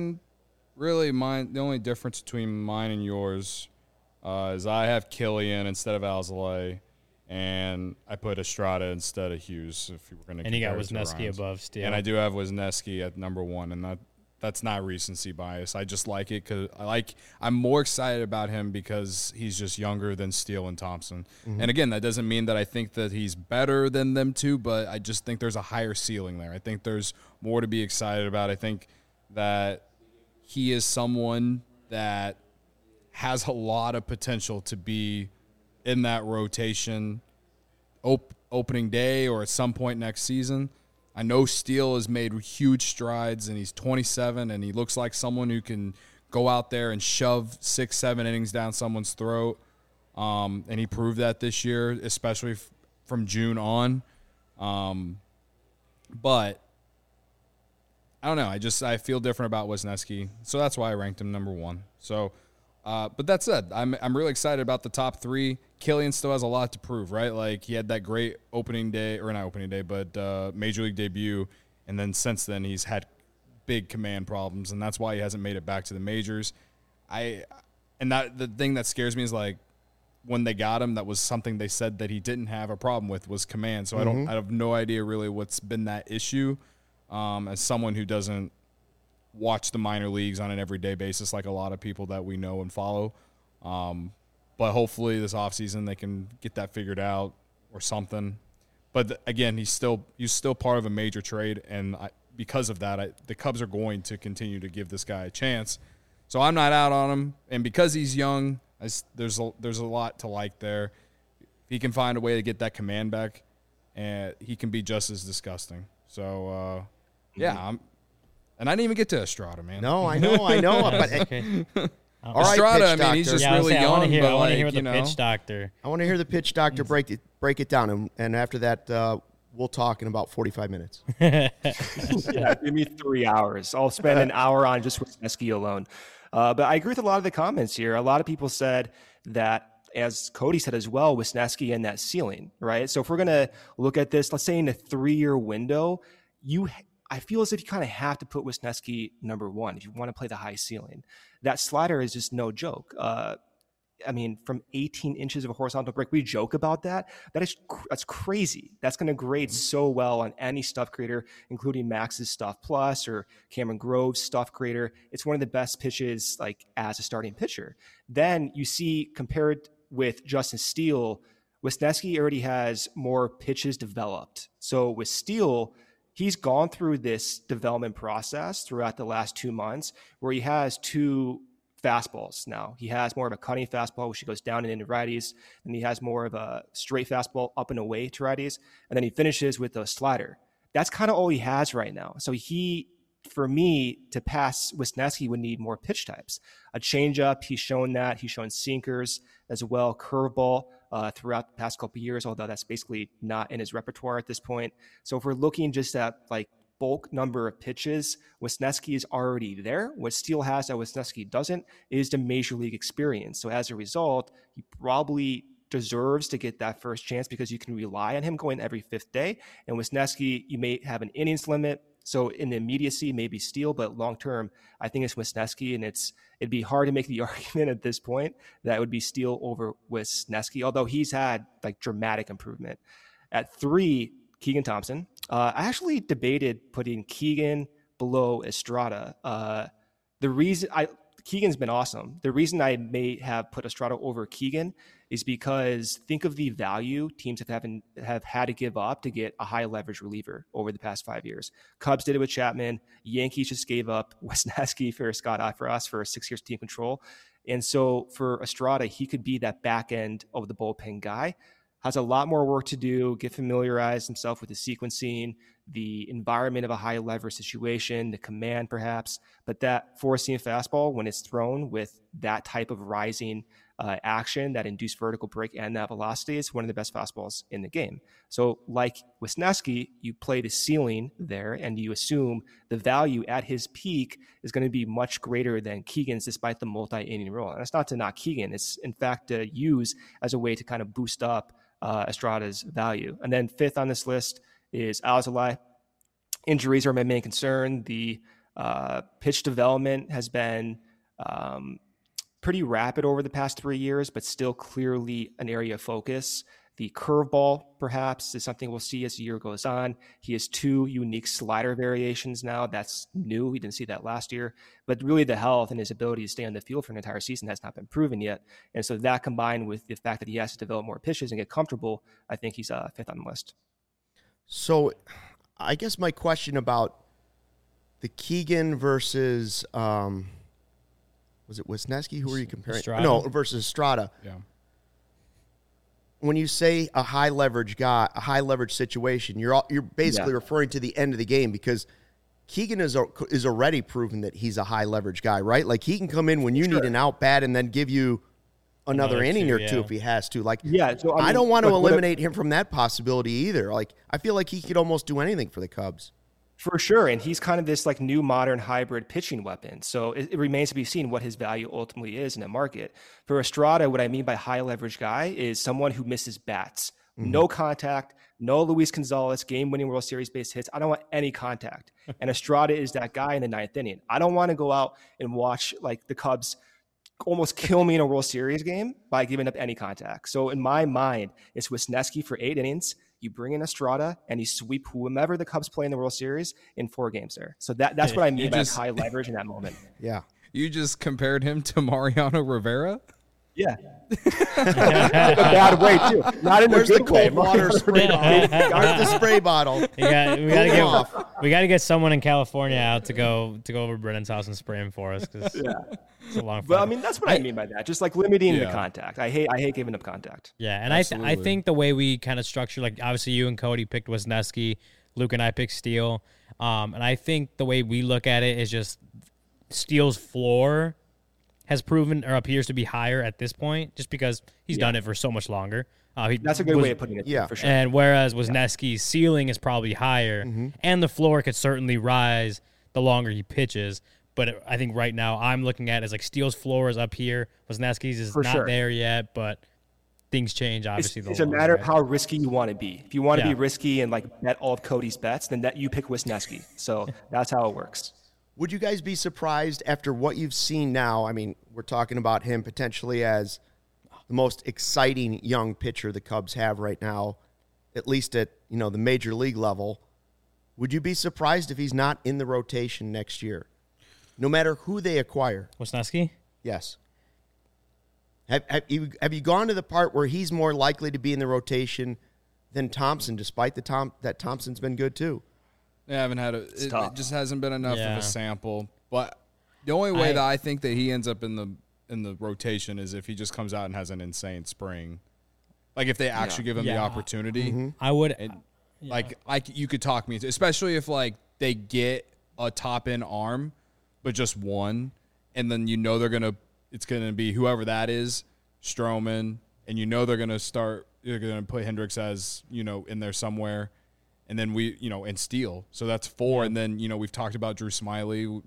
the only difference between mine and yours is I have Killian instead of Alzolay, and I put Estrada instead of Hughes. If you were going to, and you got Wisniewski above Steele, and I do have Wisniewski at number 1, and that's not recency bias. I just like it because I'm more excited about him because he's just younger than Steele and Thompson. Mm-hmm. And again, that doesn't mean that I think that he's better than them two, but I just think there's a higher ceiling there. I think there's more to be excited about. I think that he is someone that has a lot of potential to be in that rotation opening day or at some point next season. I know Steele has made huge strides, and he's 27, and he looks like someone who can go out there and shove 6-7 innings down someone's throat. And he proved that this year, especially from June on. But I don't know. I feel different about Wisniewski, so that's why I ranked him number 1. So, but that said, I'm really excited about the top 3. Killian still has a lot to prove, right? Like, he had that great major league debut, and then since then he's had big command problems, and that's why he hasn't made it back to the majors. The thing that scares me is, like, when they got him, that was something they said that he didn't have a problem with, was command. So I have no idea really what's been that issue. As someone who doesn't watch the minor leagues on an everyday basis like a lot of people that we know and follow. But hopefully this offseason they can get that figured out or something. But again, he's still part of a major trade, and because of that, the Cubs are going to continue to give this guy a chance. So I'm not out on him, and because he's young, there's a lot to like there. If he can find a way to get that command back, and he can be just as disgusting. So yeah, and I didn't even get to Estrada, man. No, I know. But okay. All right, Estrada, pitch I mean, he's doctor. just really young. I want to hear but the pitch doctor. I want to hear the pitch doctor break it down, and after that, we'll talk in about 45 minutes. Yeah, give me 3 hours. I'll spend an hour on just Wisniewski alone. But I agree with a lot of the comments here. A lot of people said that as Cody said as well, Wisniewski and that ceiling, right? So if we're going to look at this, let's say in a 3-year window, I feel as if you kind of have to put Wisniewski number one if you want to play the high ceiling. That slider is just no joke. I mean, from 18 inches of a horizontal break, we joke about that. That's crazy. That's going to grade so well on any stuff creator, including Max's Stuff Plus or Cameron Grove's Stuff Creator. It's one of the best pitches, like as a starting pitcher. Then you see, compared with Justin Steele, Wisniewski already has more pitches developed. So with Steele, he's gone through this development process throughout the last 2 months where he has 2 fastballs now. He has more of a cutting fastball, which he goes down and into righties, and he has more of a straight fastball up and away to righties, and then he finishes with a slider. That's kind of all he has right now. So for me, to pass Wisniewski would need more pitch types. A changeup, he's shown that. He's shown sinkers as well, curveball throughout the past couple of years, although that's basically not in his repertoire at this point. So if we're looking just at like bulk number of pitches, Wisniewski is already there. What Steele has that Wisniewski doesn't is the major league experience. So as a result, he probably deserves to get that first chance because you can rely on him going every 5th day. And Wisniewski, you may have an innings limit. So in the immediacy, maybe Steele, but long-term, I think it's Wisniewski, and it'd be hard to make the argument at this point that it would be Steele over Wisniewski, although he's had like dramatic improvement. At 3, Keegan Thompson. I actually debated putting Keegan below Estrada. Keegan's been awesome. The reason I may have put Estrada over Keegan is because think of the value teams have had to give up to get a high leverage reliever over the past 5 years. Cubs did it with Chapman. Yankees just gave up Wisniewski for Scott Eifrost for 6 years team control. And so for Estrada, he could be that back end of the bullpen guy. Has a lot more work to do, get familiarized himself with the sequencing, the environment of a high leverage situation, the command perhaps, but that 4-seam fastball, when it's thrown with that type of rising action, that induced vertical break and that velocity, is one of the best fastballs in the game. So like Wisniewski, you play the ceiling there and you assume the value at his peak is going to be much greater than Keegan's despite the multi-inning role. And that's not to knock Keegan. It's in fact to use as a way to kind of boost up Estrada's value. And then 5th on this list is Alzolay. Injuries are my main concern. The pitch development has been pretty rapid over the past 3 years, but still clearly an area of focus. The curveball, perhaps, is something we'll see as the year goes on. He has 2 unique slider variations now. That's new. We didn't see that last year. But really the health and his ability to stay on the field for an entire season has not been proven yet. And so that combined with the fact that he has to develop more pitches and get comfortable, I think he's 5th on the list. So I guess my question about the Keegan versus, was it Wisniewski? Who were you comparing? Estrada. No, versus Estrada. Yeah. When you say a high leverage guy, a high leverage situation, you're basically referring to the end of the game because Keegan is already proven that he's a high leverage guy, right? Like he can come in when you need an out bat and then give you another inning or two if he has to. Like, so I don't want to eliminate him from that possibility either. Like, I feel like he could almost do anything for the Cubs. For sure, and he's kind of this like new modern hybrid pitching weapon. So it remains to be seen what his value ultimately is in the market. For Estrada, what I mean by high leverage guy is someone who misses bats. No contact, no Luis Gonzalez game-winning World Series base hits. I don't want any contact. And Estrada is that guy in the 9th inning. I don't want to go out and watch like the Cubs almost kill me in a World Series game by giving up any contact. So in my mind, it's Wisniewski for 8 innings. You bring in Estrada and you sweep whomever the Cubs play in the World Series in 4 games there. So that's what I mean by high leverage in that moment. Yeah. You just compared him to Mariano Rivera? Yeah. In a bad way, too. Not in Where's a the good way. cold water spray bottle? Where's the spray bottle? We got to get someone in California out to go over to Brennan's house and spray him for us because it's a long. Well, I mean, that's what I mean by that. Just like limiting the contact. I hate giving up contact. Yeah, and I think the way we kind of structure, like obviously you and Cody picked Wisniewski, Luke and I picked Steele, and I think the way we look at it is just Steele's floor has proven or appears to be higher at this point, just because he's done it for so much longer. That's a good way of putting it. Yeah, for sure. And whereas Wisniewski's ceiling is probably higher, and the floor could certainly rise the longer he pitches. But I think right now I'm looking at it as like Steele's floor is up here, Wisniewski's is not there yet, but things change. Obviously, It's a matter of how risky you want to be. If you want to be risky and like bet all of Cody's bets, then you pick Wisniewski. So that's how it works. Would you guys be surprised after what you've seen now? I mean, we're talking about him potentially as the most exciting young pitcher the Cubs have right now, at least at the major league level. Would you be surprised if he's not in the rotation next year, no matter who they acquire? Wisniewski? Yes. Have you gone to the part where he's more likely to be in the rotation than Thompson, despite that Thompson's been good too? I haven't had it just hasn't been enough of Yeah. a sample. But the only way that I think that he ends up in the rotation is if he just comes out and has an insane spring. Like if they actually give him the opportunity. I would. Like you could talk me into, especially if like they get a top end arm, but just one, and then it's gonna be whoever that is, Stroman, and they're gonna put Hendricks as in there somewhere, and then and Steele. So that's 4, and then we've talked about Drew Smiley,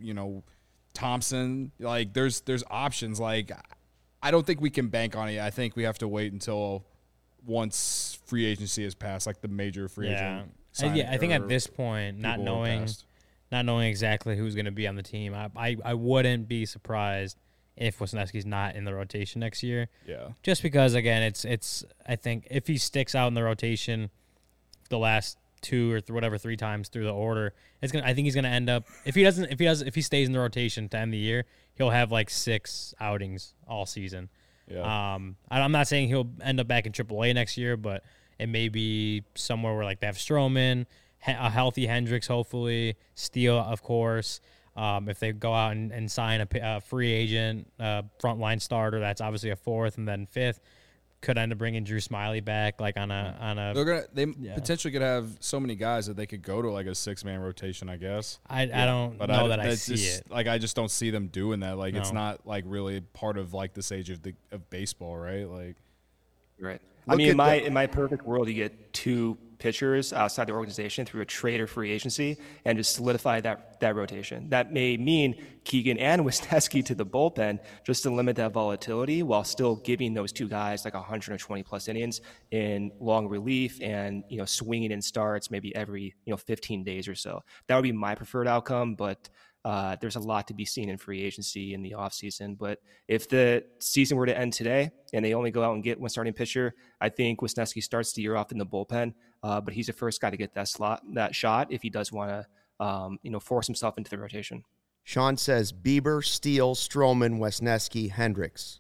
Thompson. Like there's options. Like I don't think we can bank on it. I think we have to wait until once free agency has passed, like the major free agent. I think at this point, not knowing exactly who's going to be on the team, I wouldn't be surprised if Wisniewski's not in the rotation next year. Yeah. Just because again, it's I think if he sticks out in the rotation the last 2 or 3 times through the order, I think he's gonna end up if he stays in the rotation to end the year, he'll have like 6 outings all season. Yeah. I'm not saying he'll end up back in AAA next year, but it may be somewhere where like they have Stroman, a healthy Hendricks, hopefully Steele, of course. If they go out and sign a free agent frontline starter, that's obviously a 4th, and then 5th could end up bringing Drew Smiley back, like on a. They potentially could have so many guys that they could go to like a 6-man rotation, I guess. I don't know that I see it. Like I just don't see them doing that. Like it's not like really part of like the stage of baseball, right? Like, right. I mean, in my perfect world, you get 2 pitchers outside the organization through a trade or free agency and just solidify that rotation. That may mean Keegan and Wisniewski to the bullpen just to limit that volatility while still giving those 2 guys like 120 plus innings in long relief and swinging in starts maybe every 15 days or so. That would be my preferred outcome, but there's a lot to be seen in free agency in the offseason. But if the season were to end today and they only go out and get one starting pitcher, I think Wisniewski starts the year off in the bullpen. But he's the first guy to get that shot if he does want to force himself into the rotation. Sean says Bieber, Steele, Stroman, Wisniewski, Hendricks.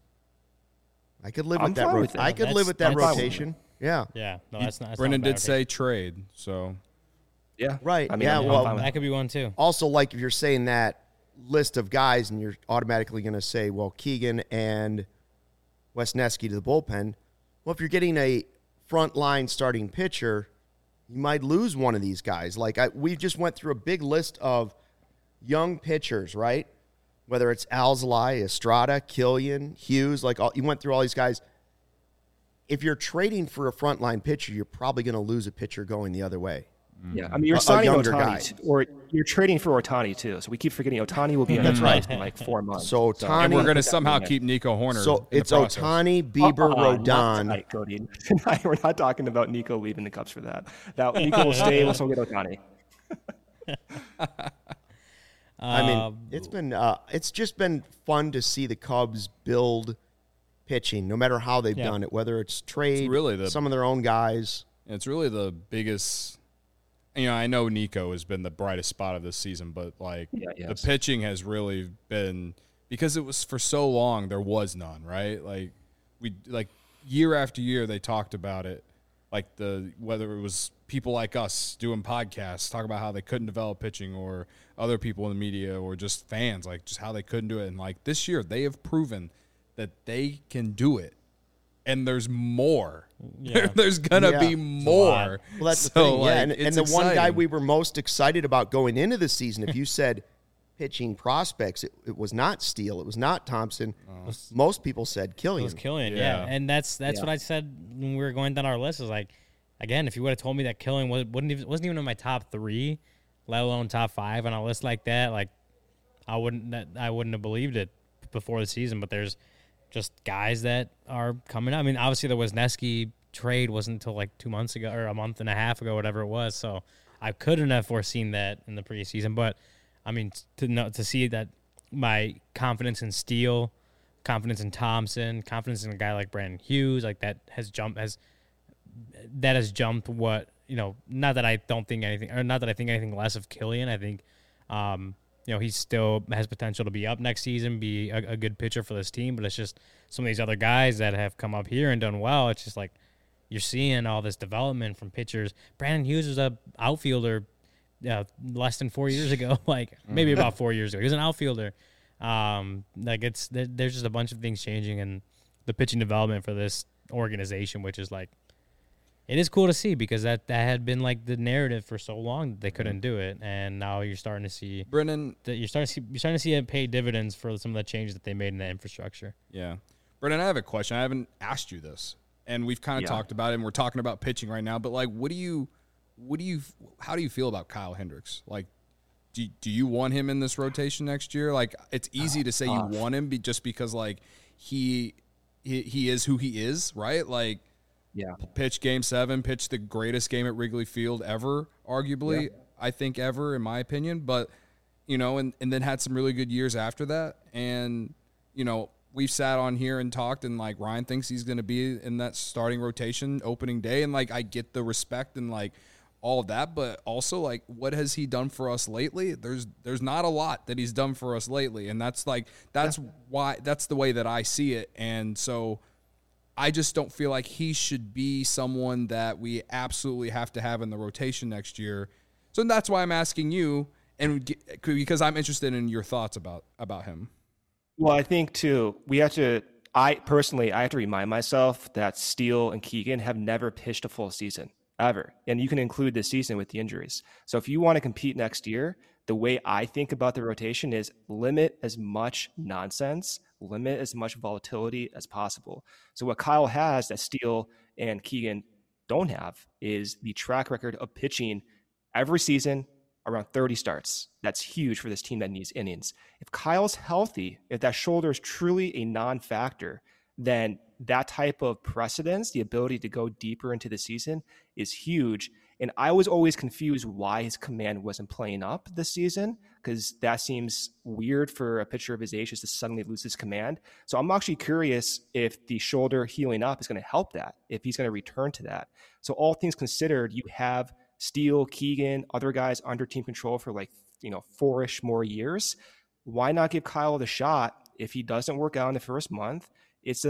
I could live with that. I could live with that rotation. Yeah. Yeah. No, that's not. Brendan did say trade, so. Yeah. Right. I mean, that could be one too. Also, like if you're saying that list of guys and you're automatically going to say, well, Keegan and Wisniewski to the bullpen. Well, if you're getting a frontline starting pitcher, you might lose one of these guys. Like we just went through a big list of young pitchers, right? Whether it's Alzolay, Estrada, Killian, Hughes, you went through all these guys. If you're trading for a frontline pitcher, you're probably going to lose a pitcher going the other way. Yeah, I mean, you're signing Ohtani, or you're trading for Ohtani too. So we keep forgetting Ohtani will be on the price in like 4 months. So Ohtani, and we're going to somehow keep Nico Hoerner. So it's Ohtani, Bieber, Rodon. Cody. We're not talking about Nico leaving the Cubs for that. Nico will stay. Let's go get Ohtani. I mean, it's just been fun to see the Cubs build pitching, no matter how they've done it, whether it's trade, some of their own guys. It's really the biggest. I know Nico has been the brightest spot of this season, but the pitching has really been, because it was for so long there was none, right? Like year after year they talked about it, whether it was people like us doing podcasts talk about how they couldn't develop pitching, or other people in the media, or just fans, like just how they couldn't do it. And this year they have proven that they can do it. And there's more. Yeah. There's going to be more. Well, that's the thing. And the one guy we were most excited about going into the season, if you said pitching prospects, it was not Steele. It was not Thompson. Most people said Killian. It was Killian, yeah. And that's what I said when we were going down our list. Is again, if you would have told me that Killian wasn't even in my top 3, let alone top 5 on a list like that, I wouldn't have believed it before the season. But there's just guys that are coming up. I mean, obviously the Wisniewski trade wasn't until like 2 months ago or a month and a half ago, whatever it was. So I couldn't have foreseen that in the preseason. But I mean, to see that my confidence in Steele, confidence in Thompson, confidence in a guy like Brandon Hughes, like that has jumped what, not that I don't think anything, or not that I think anything less of Killian. I think, he still has potential to be up next season, be a good pitcher for this team, but it's just some of these other guys that have come up here and done well. It's just like you're seeing all this development from pitchers. Brandon Hughes was a outfielder less than 4 years ago, like maybe about 4 years ago. He was an outfielder. There's just a bunch of things changing in the pitching development for this organization, which is like, it is cool to see because that had been like the narrative for so long that they couldn't do it, and now you're starting to see Brennan. You're starting to see it pay dividends for some of the changes that they made in the infrastructure. Yeah, Brennan, I have a question. I haven't asked you this, and we've kind of talked about it, and we're talking about pitching right now. But like, how do you feel about Kyle Hendricks? Like, do you want him in this rotation next year? Like, it's easy to say you want him just because like he is who he is, right? Like. Yeah. Pitch Game 7, pitch the greatest game at Wrigley Field ever, arguably, I think ever, in my opinion. But, and then had some really good years after that. And, we've sat on here and talked, and, like, Ryan thinks he's going to be in that starting rotation opening day. And, like, I get the respect and, like, all of that. But also, like, what has he done for us lately? There's not a lot that he's done for us lately. And that's why that's the way that I see it. And so I just don't feel like he should be someone that we absolutely have to have in the rotation next year. So that's why I'm asking you, and because I'm interested in your thoughts about him. Well, I think too, I have to remind myself that Steele and Keegan have never pitched a full season ever. And you can include this season with the injuries. So if you want to compete next year, the way I think about the rotation is limit as much nonsense, limit as much volatility as possible. So what Kyle has that Steele and Keegan don't have is the track record of pitching every season around 30 starts. That's huge for this team that needs innings. If Kyle's healthy, if that shoulder is truly a non-factor, then that type of precedence, the ability to go deeper into the season, is huge. And I was always confused why his command wasn't playing up this season, because that seems weird for a pitcher of his age just to suddenly lose his command. So I'm actually curious if the shoulder healing up is going to help that, if he's going to return to that. So all things considered, you have Steele, Keegan, other guys under team control for 4-ish more years. Why not give Kyle the shot if he doesn't work out in the first month? It's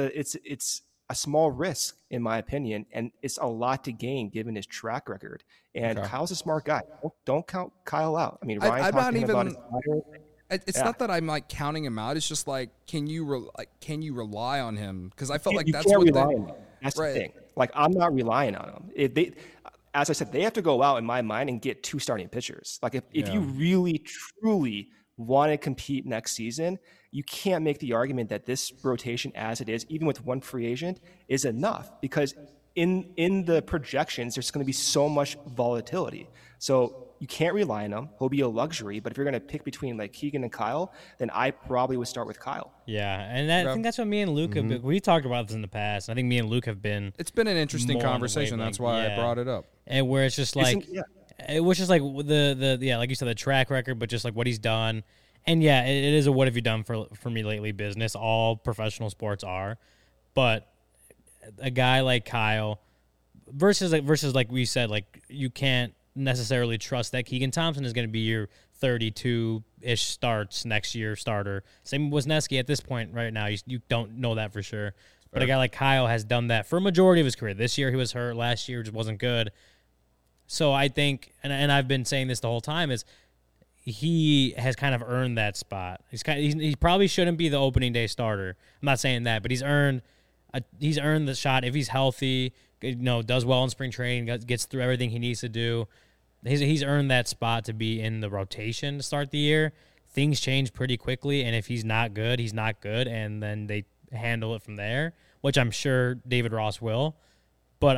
a small risk, in my opinion, and it's a lot to gain given his track record. And Kyle's a smart guy. Don't count Kyle out. I mean, Ryan I'm not even. about his It's not that I'm like counting him out. It's just like, can you rely on him? Because I felt like that's can't what rely on him. That's the thing. Like, I'm not relying on him. If they, as I said, they have to go out in my mind and get 2 starting pitchers. Like if you really truly want to compete next season, you can't make the argument that this rotation as it is, even with one free agent, is enough, because in the projections, there's going to be so much volatility. So you can't rely on him. He'll be a luxury. But if you're going to pick between like Keegan and Kyle, then I probably would start with Kyle. Yeah, and I think that's what me and Luke have been. We've talked about this in the past. I think me and Luke have been. It's been an interesting conversation. That's why I brought it up. And where it's just like, it was just like the like you said, the track record, but just like what he's done. And yeah, it is a what have you done for me lately business. All professional sports are. But a guy like Kyle versus like we said, like you can't necessarily trust that Keegan Thompson is going to be your 32-ish starts next year starter. Same with Wisniewski at this point right now. You don't know that for sure. But a guy like Kyle has done that for a majority of his career. This year he was hurt. Last year just wasn't good. So I think, and I've been saying this the whole time, is he has kind of earned that spot. He probably shouldn't be the opening day starter. I'm not saying that, but he's earned the shot if he's healthy. Does well in spring training, gets through everything he needs to do. He's earned that spot to be in the rotation to start the year. Things change pretty quickly, and if he's not good, he's not good, and then they handle it from there, which I'm sure David Ross will. But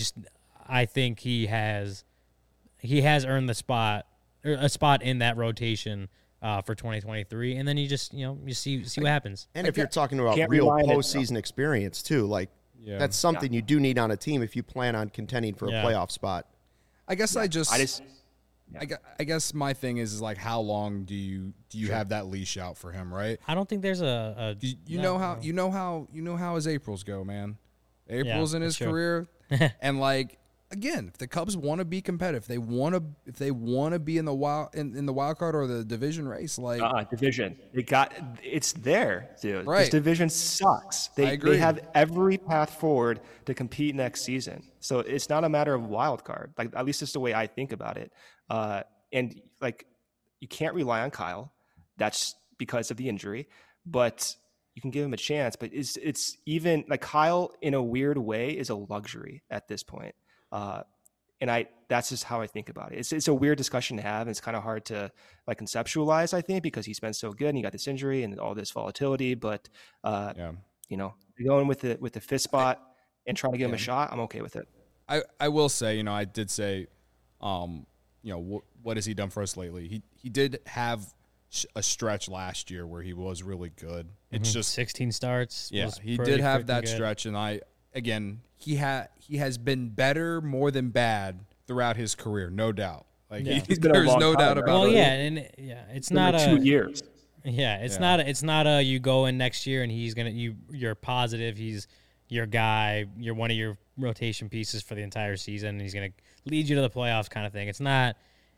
I think he has earned the spot, or a spot in that rotation for 2023, and then you just you see what happens. And if you're talking about Can't real rely on it, postseason experience too, like that's something you do need on a team if you plan on contending for a playoff spot. I guess I just I guess my thing is like how long do you have that leash out for him, right? I don't think there's a You know how his Aprils go, man. April's in his that's true. career, and like again, if the Cubs want to be competitive, if they want to be in the wild card or the division race, like division. It's there, dude. Right. This division sucks. I agree. They have every path forward to compete next season. So it's not a matter of wild card. Like at least it's the way I think about it. And like you can't rely on Kyle. That's because of the injury, but you can give him a chance. But it's even like Kyle in a weird way is a luxury at this point. And that's just how I think about it. It's a weird discussion to have, and it's kind of hard to like conceptualize, I think, because he's been so good and he got this injury and all this volatility. But going with the fifth spot and trying to give him a shot, I'm okay with it. I will say, I did say, what has he done for us lately? He did have a stretch last year where he was really good. It's just 16 starts. Yeah, was he pretty did have freaking that good. stretch, and he has been better more than bad throughout his career, no doubt. Like Yeah. It's been a there's long no time, doubt right? about Well, it. yeah, and it's It's been not like 2 years. Yeah, it's Yeah. not a you go in next year and he's gonna you're positive he's your guy, you're one of your rotation pieces for the entire season, and he's gonna lead you to the playoffs kind of thing. It's not.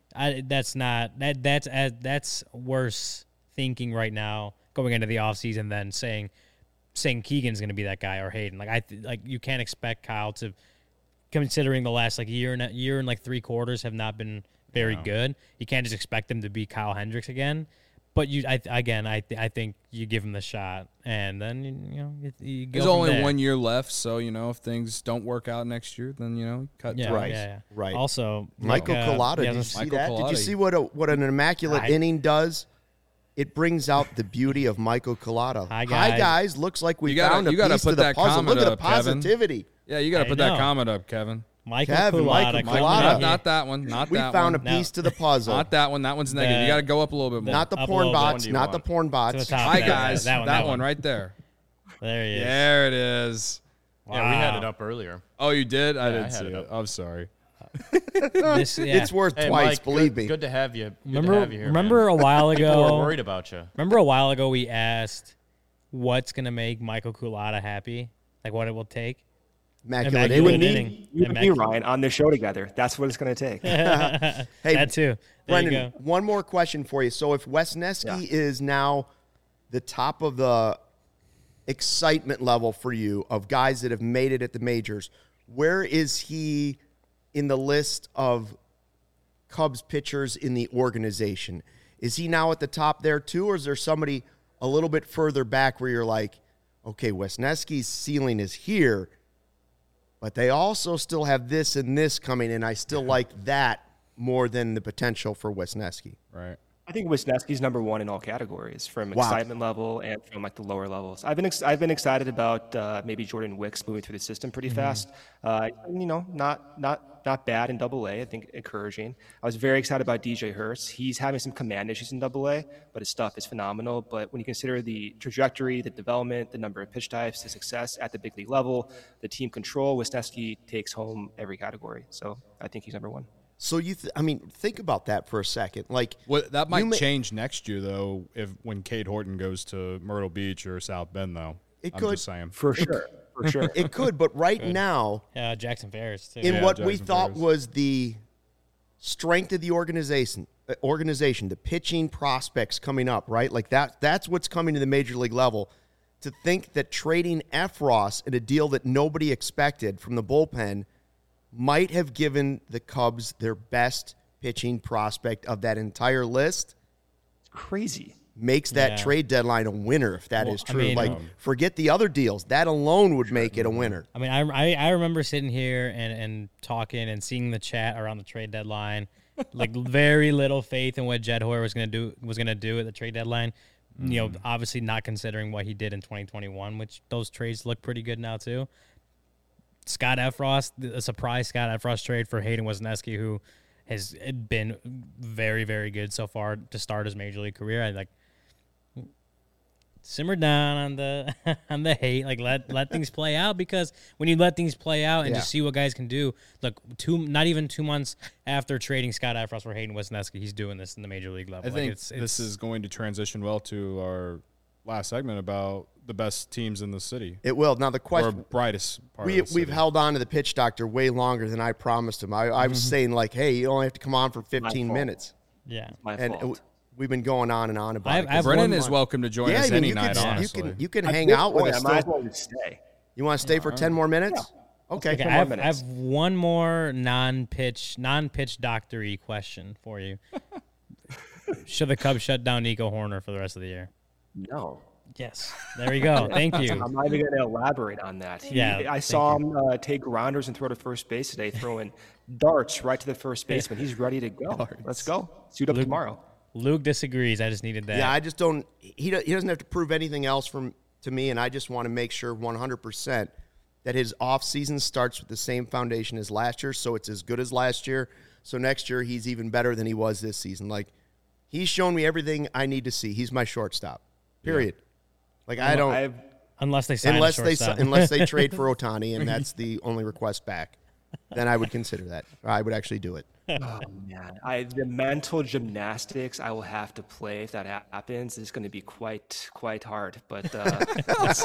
That's worse thinking right now going into the offseason than saying Keegan's gonna be that guy or Hayden. Like you can't expect Kyle to, considering the last like year and like 3 quarters have not been very good. You can't just expect him to be Kyle Hendricks again. But I think you give him the shot, and then you go. There's from only there. 1 year left, so if things don't work out next year, then cut. Yeah, Right, yeah. right. Also, Michael Collada, yeah, did you let's- see Michael that? Did you Collada. see what an immaculate inning does? It brings out the beauty of Michael Collada. Hi, guys. Looks like we You gotta- found a you gotta piece put to the that puzzle. comment Look at the up, Kevin. positivity. Yeah, you got to I put know. that comment up, Kevin. Michael Kevin, Collada. Michael coming Collada. in Not here. that one. Not We that found one. a piece to the puzzle. Not that one. That one's negative. You got to go up a little bit more. Not the Up a porn little bit. bots. Which one do you Not the want? porn To bots. the top. Hi That guys. that one one. right there. There he is. There it is. Yeah, we had Wow. it up earlier. Oh, you did? I I didn't had see it it. up. I'm sorry. This, yeah. It's worth Hey, twice, Mike, believe good, me. Good to have you. Good Remember, to have you here, remember man. a while People ago. were worried about you. Remember a while ago we asked what's gonna make Michael Collada happy, like what it will take. Immaculate Immaculate inning. inning. You and me, Ryan, on this show together. That's what it's going to take. Hey, That too. There Brendan, you go. one more question for you. So if Wesneski is now the top of the excitement level for you of guys that have made it at the majors, where is he in the list of Cubs pitchers in the organization? Is he now at the top there too, or is there somebody a little bit further back where you're like, okay, Wesneski's ceiling is here, but they also still have this and this coming, and I still like that more than the potential for Wesneski. Right. I think Wisniewski's number one in all categories, from Wow. excitement level and from like the lower levels. I've been excited about maybe Jordan Wicks moving through the system pretty fast. Not bad in Double A. I think encouraging. I was very excited about DJ Hurst. He's having some command issues in Double A, but his stuff is phenomenal. But when you consider the trajectory, the development, the number of pitch types, the success at the big league level, the team control, Wisniewski takes home every category. So I think he's number one. So think about that for a second. Like, That you might may- change next year, though, when Cade Horton goes to Myrtle Beach or South Bend, though. It I'm could. just saying. For sure. For sure. it could, but right now, Jackson Ferris too. in Yeah, what we Jackson thought Ferris. was the strength of the organization, the pitching prospects coming up, right? Like that's what's coming to the major league level. To think that trading Efros in a deal that nobody expected from the bullpen might have given the Cubs their best pitching prospect of that entire list Crazy. makes that Yeah. trade deadline a winner if that is I true. mean, Forget the other deals. That alone would make it a winner. I mean, I remember sitting here and talking and seeing the chat around the trade deadline, like very little faith in what Jed Hoyer was gonna do at the trade deadline. You know, obviously not considering what he did in 2021, which those trades look pretty good now too. Scott Efros, a surprise Scott Efros trade for Hayden Wesneski, who has been very, very good so far to start his major league career. I like simmer down on the on the hate. Like let things play out, because when you let things play out and just see what guys can do. Look, not even 2 months after trading Scott Effross for Hayden Wesneski, he's doing this in the major league level. I think this is going to transition well to our last segment about the best teams in the city. It will. Now the Or question, brightest part of the city. we've held on to the pitch doctor way longer than I promised him. I was saying like, hey, you only have to come on for 15 minutes. yeah. My And fault. we've been going on and on about it. I've Brennan one is more. welcome to join Yeah, us I mean, any you night, can, honestly. you can At hang this out with point, us. I might as Still. well just stay. You want to stay for 10 more minutes? Okay. Okay, 10 I more have minutes. one more non-pitch doctory question for you. Should the Cubs shut down Nico Horner for the rest of the year? No. Yes. There we go. Thank you. I'm not even going to elaborate on that. I saw him take grounders and throw to first base today, throwing darts right to the first baseman. He's ready to go. Let's go. Suit up tomorrow. Luke disagrees. I just needed that. Yeah, I just don't. He doesn't have to prove anything else to me, and I just want to make sure 100% that his off season starts with the same foundation as last year, so it's as good as last year. So next year he's even better than he was this season. Like, he's shown me everything I need to see. He's my shortstop. Period. Like, I don't unless they sign a shortstop. unless they trade for Ohtani, and that's the only request back. Then I would consider that. I would actually do it. Oh, man. The mental gymnastics I will have to play if that happens is going to be quite hard. But let's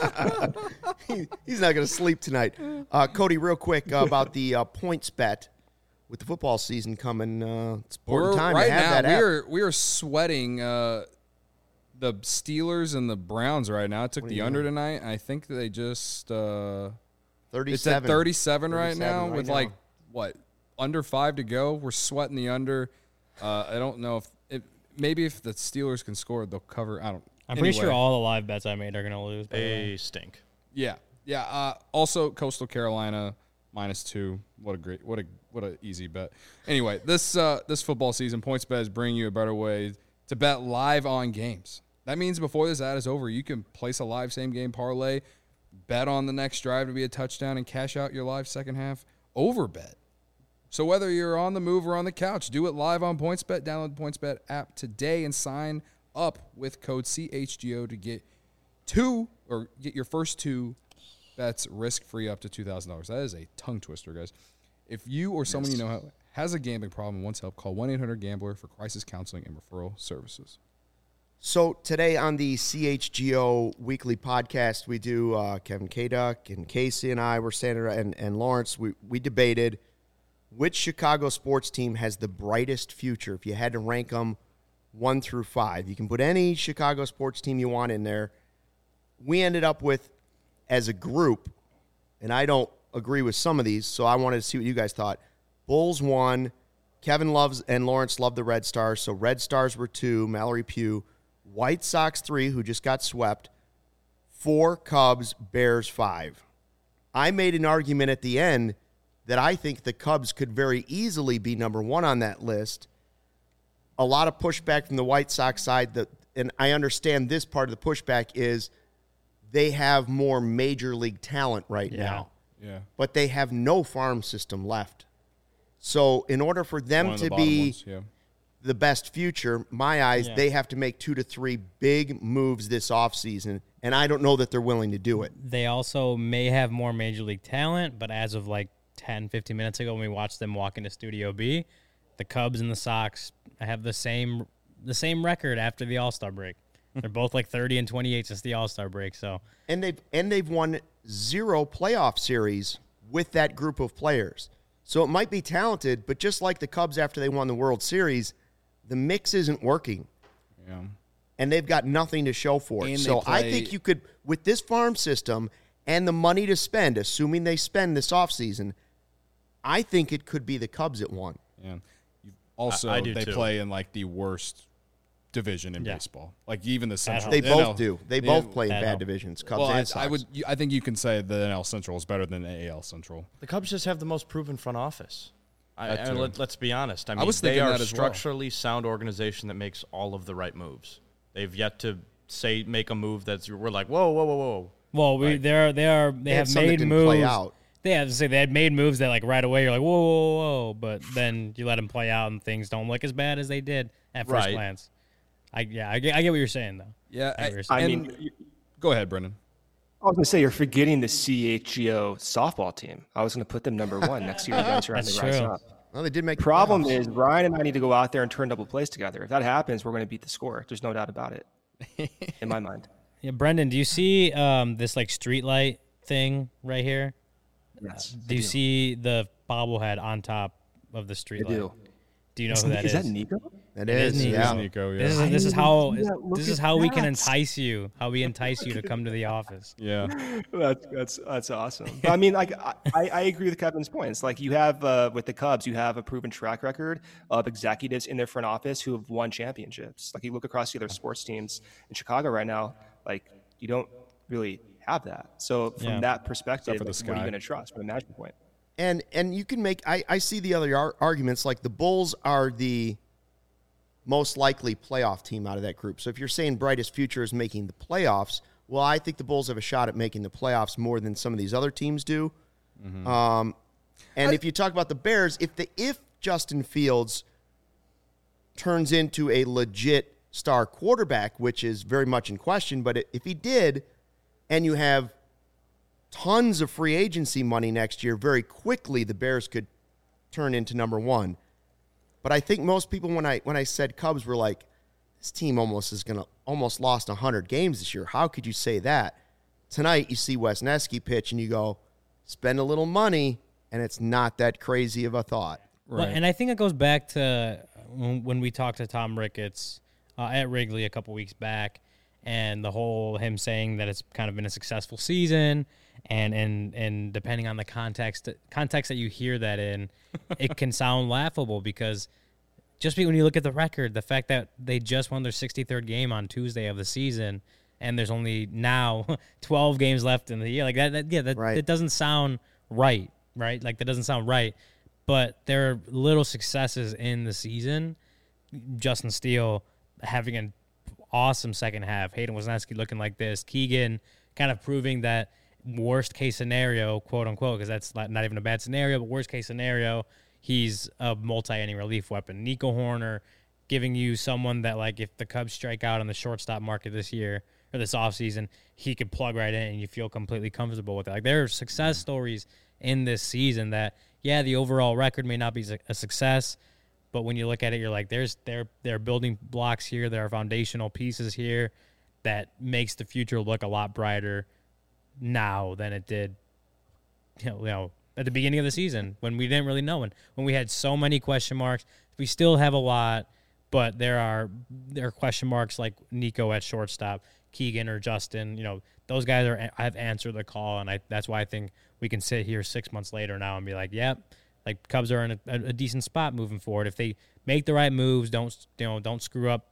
see. He's not going to sleep tonight. Cody, real quick about the points bet with the football season coming. It's important time right to have now, that app. we are sweating the Steelers and the Browns right now. I took the under tonight. I think they just 37. it's at 37 right 37 now right with now. like what, under 5 to go. We're sweating the under. I don't know if maybe if the Steelers can score, they'll cover. I'm pretty sure all the live bets I made are going to lose. by the way. They stink. Yeah. Also, Coastal Carolina -2. What a easy bet. Anyway, this football season, PointsBet is bringing you a better way to bet live on games. That means before this ad is over, you can place a live same game parlay, bet on the next drive to be a touchdown, and cash out your live second half over bet. So whether you're on the move or on the couch, do it live on PointsBet. Download the PointsBet app today and sign up with code CHGO to get your first 2 bets risk-free up to $2,000. That is a tongue twister, guys. If you or someone you know has a gambling problem and wants help, call 1-800-GAMBLER for crisis counseling and referral services. So today on the CHGO weekly podcast, we do Kevin K-Duck and Casey and I were standing around, and Lawrence. We debated which Chicago sports team has the brightest future. If you had to rank them 1 through 5, you can put any Chicago sports team you want in there. We ended up with, as a group, and I don't agree with some of these, so I wanted to see what you guys thought. Bulls 1, Kevin loves and Lawrence loved the Red Stars, so Red Stars were 2, Mallory Pugh. White Sox 3, who just got swept. 4, Cubs, Bears 5. I made an argument at the end that I think the Cubs could very easily be number 1 on that list. A lot of pushback from the White Sox side, and I understand this part of the pushback is they have more major league talent right now. Yeah. But they have no farm system left. So in order for them One of the to bottom be ones, yeah. the best future, my eyes, Yeah. they have to make 2 to 3 big moves this offseason, and I don't know that they're willing to do it. They also may have more major league talent, but as of like 10, 15 minutes ago when we watched them walk into Studio B, the Cubs and the Sox have the same record after the All-Star break. They're both like 30 and 28 since the All-Star break. So And they've won 0 playoff series with that group of players. So it might be talented, but just like the Cubs after they won the World Series, the mix isn't working. Yeah. And they've got nothing to show for it. And So they I play- think you could, with this farm system and the money to spend, assuming they spend this offseason, I think it could be the Cubs at 1. Yeah. Also, I do they too. play in like the worst division in Yeah. baseball. Like even the Central. They the both NL do. They the- both play in that bad help. divisions, Cubs Well, and Sox. I think you can say the NL Central is better than the AL Central. The Cubs just have the most proven front office. That too. Let's be honest. I mean, was they thinking are that a as well. structurally sound organization that makes all of the right moves. They've yet to make a move that's we're like, whoa. well, Right. they had have some that made didn't play moves. out. they have to say they had made moves that like right away you're like whoa, whoa, whoa, but then you let them play out and things don't look as bad as they did at first glance. I get what you're saying though. Yeah, I mean, go ahead, Brendan. I was going to say you're forgetting the CHGO softball team. I was going to put them number 1 next year. You guys are on the rise up. Well, they did make. Problem is Ryan and I need to go out there and turn double plays together. If that happens, we're going to beat the score. There's no doubt about it, in my mind. Yeah, Brendan, do you see this like street light thing right here? Yes. Do you see the bobblehead on top of the street light? Do you know who that is? Is that Nico? That is, yeah. Nico, yeah. This is how we can entice you. How we entice you to come to the office. Yeah, that's awesome. But I mean, like I agree with Kevin's points. Like you have with the Cubs, you have a proven track record of executives in their front office who have won championships. Like you look across the other sports teams in Chicago right now, like you don't really have that. So from that perspective, like, what are you going to trust from a management point? And you can make I see the other arguments, like the Bulls are the most likely playoff team out of that group. So if you're saying brightest future is making the playoffs, well, I think the Bulls have a shot at making the playoffs more than some of these other teams do. Mm-hmm. And if you talk about the Bears, if Justin Fields turns into a legit star quarterback, which is very much in question, but if he did, and you have tons of free agency money next year, very quickly the Bears could turn into number 1. But I think most people, when I said Cubs, were like, this team almost lost 100 games this year. How could you say that? Tonight you see Wesneski pitch and you go, spend a little money, and it's not that crazy of a thought. Right. Well, and I think it goes back to when we talked to Tom Ricketts at Wrigley a couple weeks back, and the whole him saying that it's kind of been a successful season, and depending on the context that you hear that in, it can sound laughable because just when you look at the record, the fact that they just won their 63rd game on Tuesday of the season, and there's only now 12 games left in the year, like that doesn't sound right? Like that doesn't sound right. But there are little successes in the season. Justin Steele having an awesome second half. Hayden Wesneski looking like this. Keegan kind of proving that worst case scenario, quote unquote, because that's not even a bad scenario, but worst case scenario, he's a multi-inning relief weapon. Nico Horner giving you someone that, like, if the Cubs strike out on the shortstop market this year or this offseason, he could plug right in and you feel completely comfortable with it. Like, there are success stories in this season that, yeah, the overall record may not be a success, but when you look at it, you're like, there are building blocks here, there are foundational pieces here that makes the future look a lot brighter now than it did, you know, at the beginning of the season when we didn't really know, and when we had so many question marks. We still have a lot, but there are question marks like Nico at shortstop, Keegan or Justin. You know, those guys have answered the call, and that's why I think we can sit here 6 months later now and be like, yep, like Cubs are in a decent spot moving forward if they make the right moves. Don't screw up,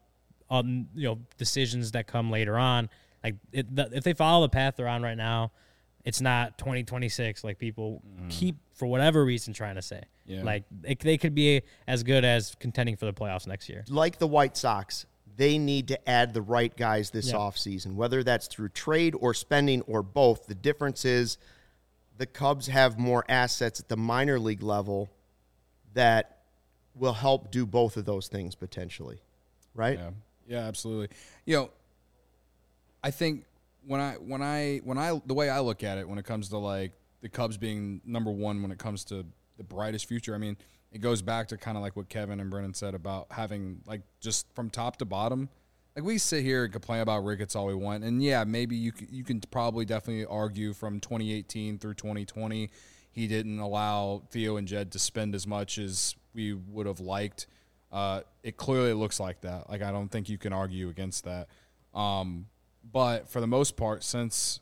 decisions that come later on. Like if they follow the path they're on right now, it's not 2026 like people keep, for whatever reason, trying to say. Yeah. Like they could be as good as contending for the playoffs next year. Like the White Sox, they need to add the right guys this offseason, whether that's through trade or spending or both. The difference is the Cubs have more assets at the minor league level that will help do both of those things potentially, right? Yeah, absolutely. You know, I think when I the way I look at it when it comes to like the Cubs being number one when it comes to the brightest future, I mean, it goes back to kind of like what Kevin and Brennan said about having like just from top to bottom. Like we sit here and complain about Ricketts all we want, and yeah, maybe you can probably definitely argue from 2018 through 2020 he didn't allow Theo and Jed to spend as much as we would have liked. It clearly looks like that. Like I don't think you can argue against that. But for the most part, since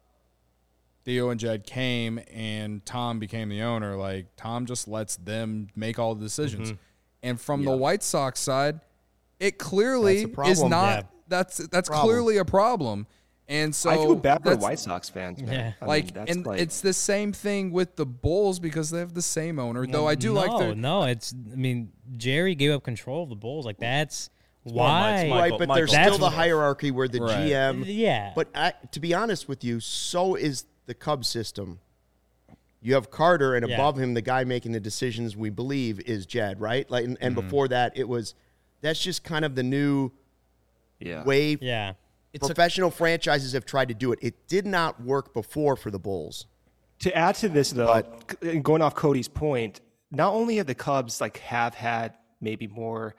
Theo and Jed came and Tom became the owner, like Tom just lets them make all the decisions. Mm-hmm. And from the White Sox side, it clearly is not. Yeah. That's clearly a problem. And so I feel bad for White Sox fans, man. Yeah. It's the same thing with the Bulls because they have the same owner. Though I do like their Jerry gave up control of the Bulls. Like that's why, right? But there's still the hierarchy where the GM. Yeah. But to be honest with you, so is the Cubs system. You have Carter, and Yeah. above him, the guy making the decisions we believe is Jed, right? Like, and before that, that's just kind of the new way. Yeah. Professional franchises have tried to do it. It did not work before for the Bulls. To add to this, though, going off Cody's point, not only have the Cubs have had maybe more,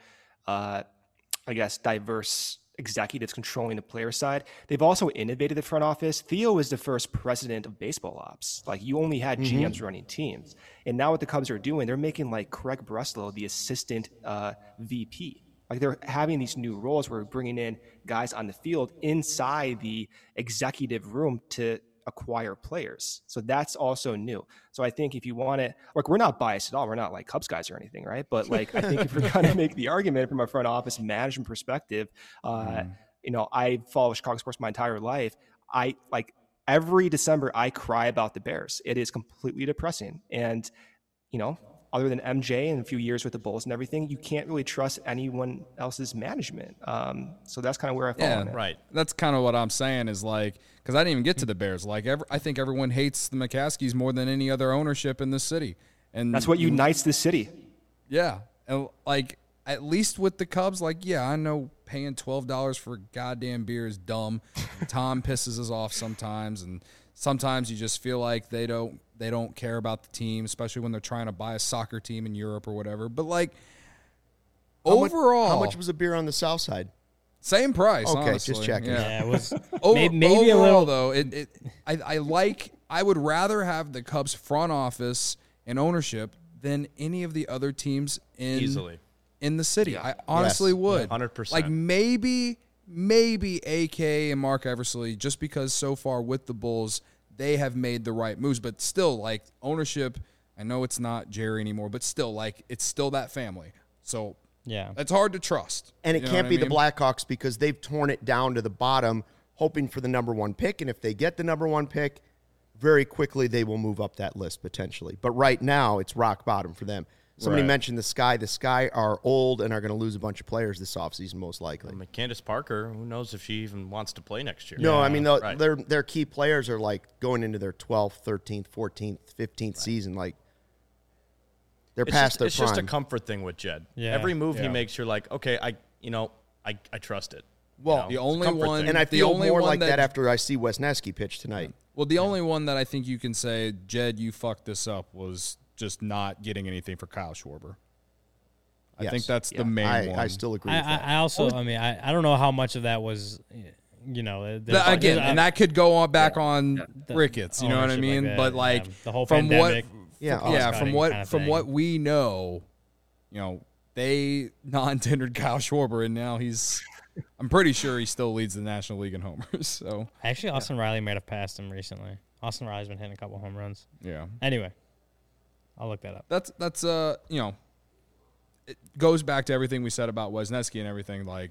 diverse executives controlling the player side, they've also innovated the front office. Theo is the first president of baseball ops. Like, you only had GMs running teams, and now what the Cubs are doing, they're making like Craig Breslow the assistant VP. Like, they're having these new roles where we're bringing in guys on the field inside the executive room to acquire players. So that's also new. So I think if you want to, like, we're not biased at all. We're not like Cubs guys or anything, right? But like, I think if we're going to make the argument from a front office management perspective, I follow Chicago sports my entire life. I like every December I cry about the Bears. It is completely depressing. And, other than MJ and a few years with the Bulls and everything, you can't really trust anyone else's management. So that's kind of where I fall on it. Right. That's kind of what I'm saying is like, because I didn't even get to the Bears. Like, I think everyone hates the McCaskies more than any other ownership in this city. And That's what unites this city. Yeah. And like, at least with the Cubs, like, yeah, I know paying $12 for goddamn beer is dumb. Tom pisses us off sometimes, and sometimes you just feel like they don't care about the team, especially when they're trying to buy a soccer team in Europe or whatever. But like, overall, how much was a beer on the South Side? same price. Okay, honestly. just checking. Yeah, it was Maybe a little. though. I would rather have the Cubs front office and ownership than any of the other teams Easily. in the city. I honestly would. 100%. Like maybe AK and Mark Eversley, just because so far with the Bulls they have made the right moves, but still, like, ownership. I know it's not Jerry anymore, but still, like, it's still that family. So Yeah. it's hard to trust. And it You know can't what be I the mean? Blackhawks because they've torn it down to the bottom, hoping for the number one pick. And if they get the number one pick, very quickly they will move up that list potentially. But right now, it's rock bottom for them. Somebody Right. mentioned the Sky. The Sky are old and are going to lose a bunch of players this offseason, most likely. I mean, Candace Parker, who knows if she even wants to play next year? No, I mean, Right. their key players are like going into their 12th, 13th, 14th, 15th season. Like, they're past their It's prime. just a comfort thing with Jed. Yeah. Every move he Yeah. makes, you're like, okay, I trust it. Well, The It's a only comfort one, thing. and I the feel only more one like that after I see Wesneski pitch tonight. Well, the only one that I think you can say, Jed, you fucked this up, was just not getting anything for Kyle Schwarber. I Yes. think that's the main one. I still agree with that. I also, I don't know how much of that was, Again, and that could go on back on Ricketts. You know what I ownership like mean? that, but yeah. like The whole from pandemic, Yeah, football yeah, scouting kind of from thing. what we know, they non-tendered Kyle Schwarber, and now I'm pretty sure he still leads the National League in homers. So Actually, Austin Riley might have passed him recently. Austin Riley's been hitting a couple home runs. yeah, Anyway, I'll look that up. that's it goes back to everything we said about Wesneski and everything, like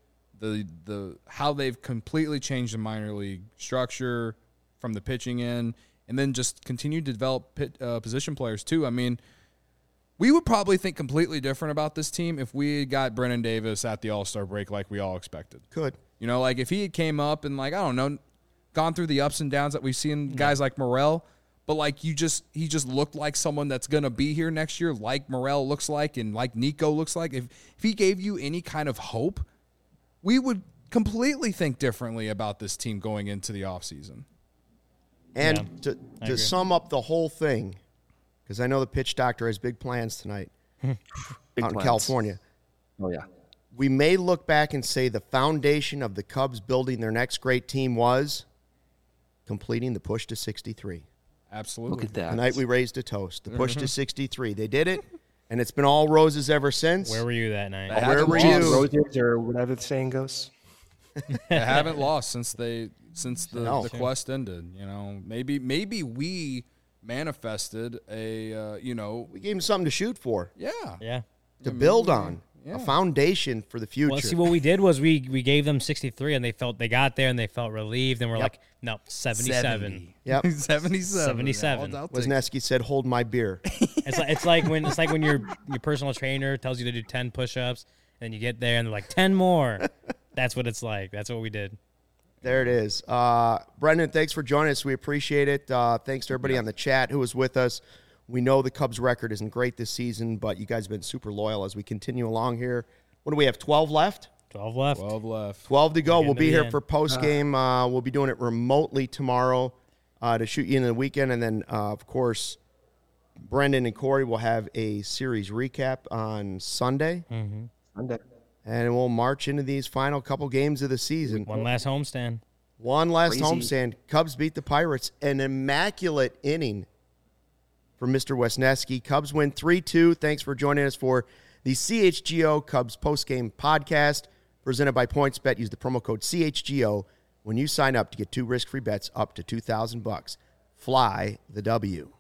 the how they've completely changed the minor league structure from the pitching in, and then just continued to develop position players too. I mean, we would probably think completely different about this team if we had got Brennan Davis at the All-Star break like we all expected. Could. Like if he had came up and like, I don't know, gone through the ups and downs that we've seen guys like Morel, but like he just looked like someone that's going to be here next year, like Morel looks like and like Nico looks like. If he gave you any kind of hope, we would completely think differently about this team going into the offseason. And Yeah, I to agree. sum up the whole thing, because I know the pitch doctor has big plans tonight Big out in plans. California. Oh, yeah. We may look back and say the foundation of the Cubs building their next great team was completing the push to 63. Absolutely. Look at that. Tonight we raised a toast. The push to 63. They did it, and it's been all roses ever since. Where were you that night? Where were haven't you? lost. Roses or whatever the saying goes. They haven't lost since No. the quest ended. Maybe we manifested a We gave them something to shoot for, Yeah. to build on, a foundation for the future. Well, see, what we did was we gave them 63, and they got there, and they felt relieved, and we're like, no, 77. Yep. 77. 77. Wisniewski said, "Hold my beer." It's like when your personal trainer tells you to do 10 push-ups, and you get there, and they're like 10 more. That's what it's like. That's what we did. There it is. Brendan, thanks for joining us. We appreciate it. Thanks to everybody on the chat who was with us. We know the Cubs' record isn't great this season, but you guys have been super loyal as we continue along here. What do we have, 12 left? 12 left. 12 to go. We'll be here end. for post-game. We'll be doing it remotely tomorrow to shoot you into the weekend. And then, of course, Brendan and Corey will have a series recap on Sunday. Sunday. And we'll march into these final couple games of the season. One last homestand. One last Crazy. homestand. Cubs beat the Pirates. An immaculate inning for Mr. Wesneski. Cubs win 3-2. Thanks for joining us for the CHGO Cubs postgame podcast presented by PointsBet. Use the promo code CHGO when you sign up to get 2 risk-free bets up to $2,000. Fly the W.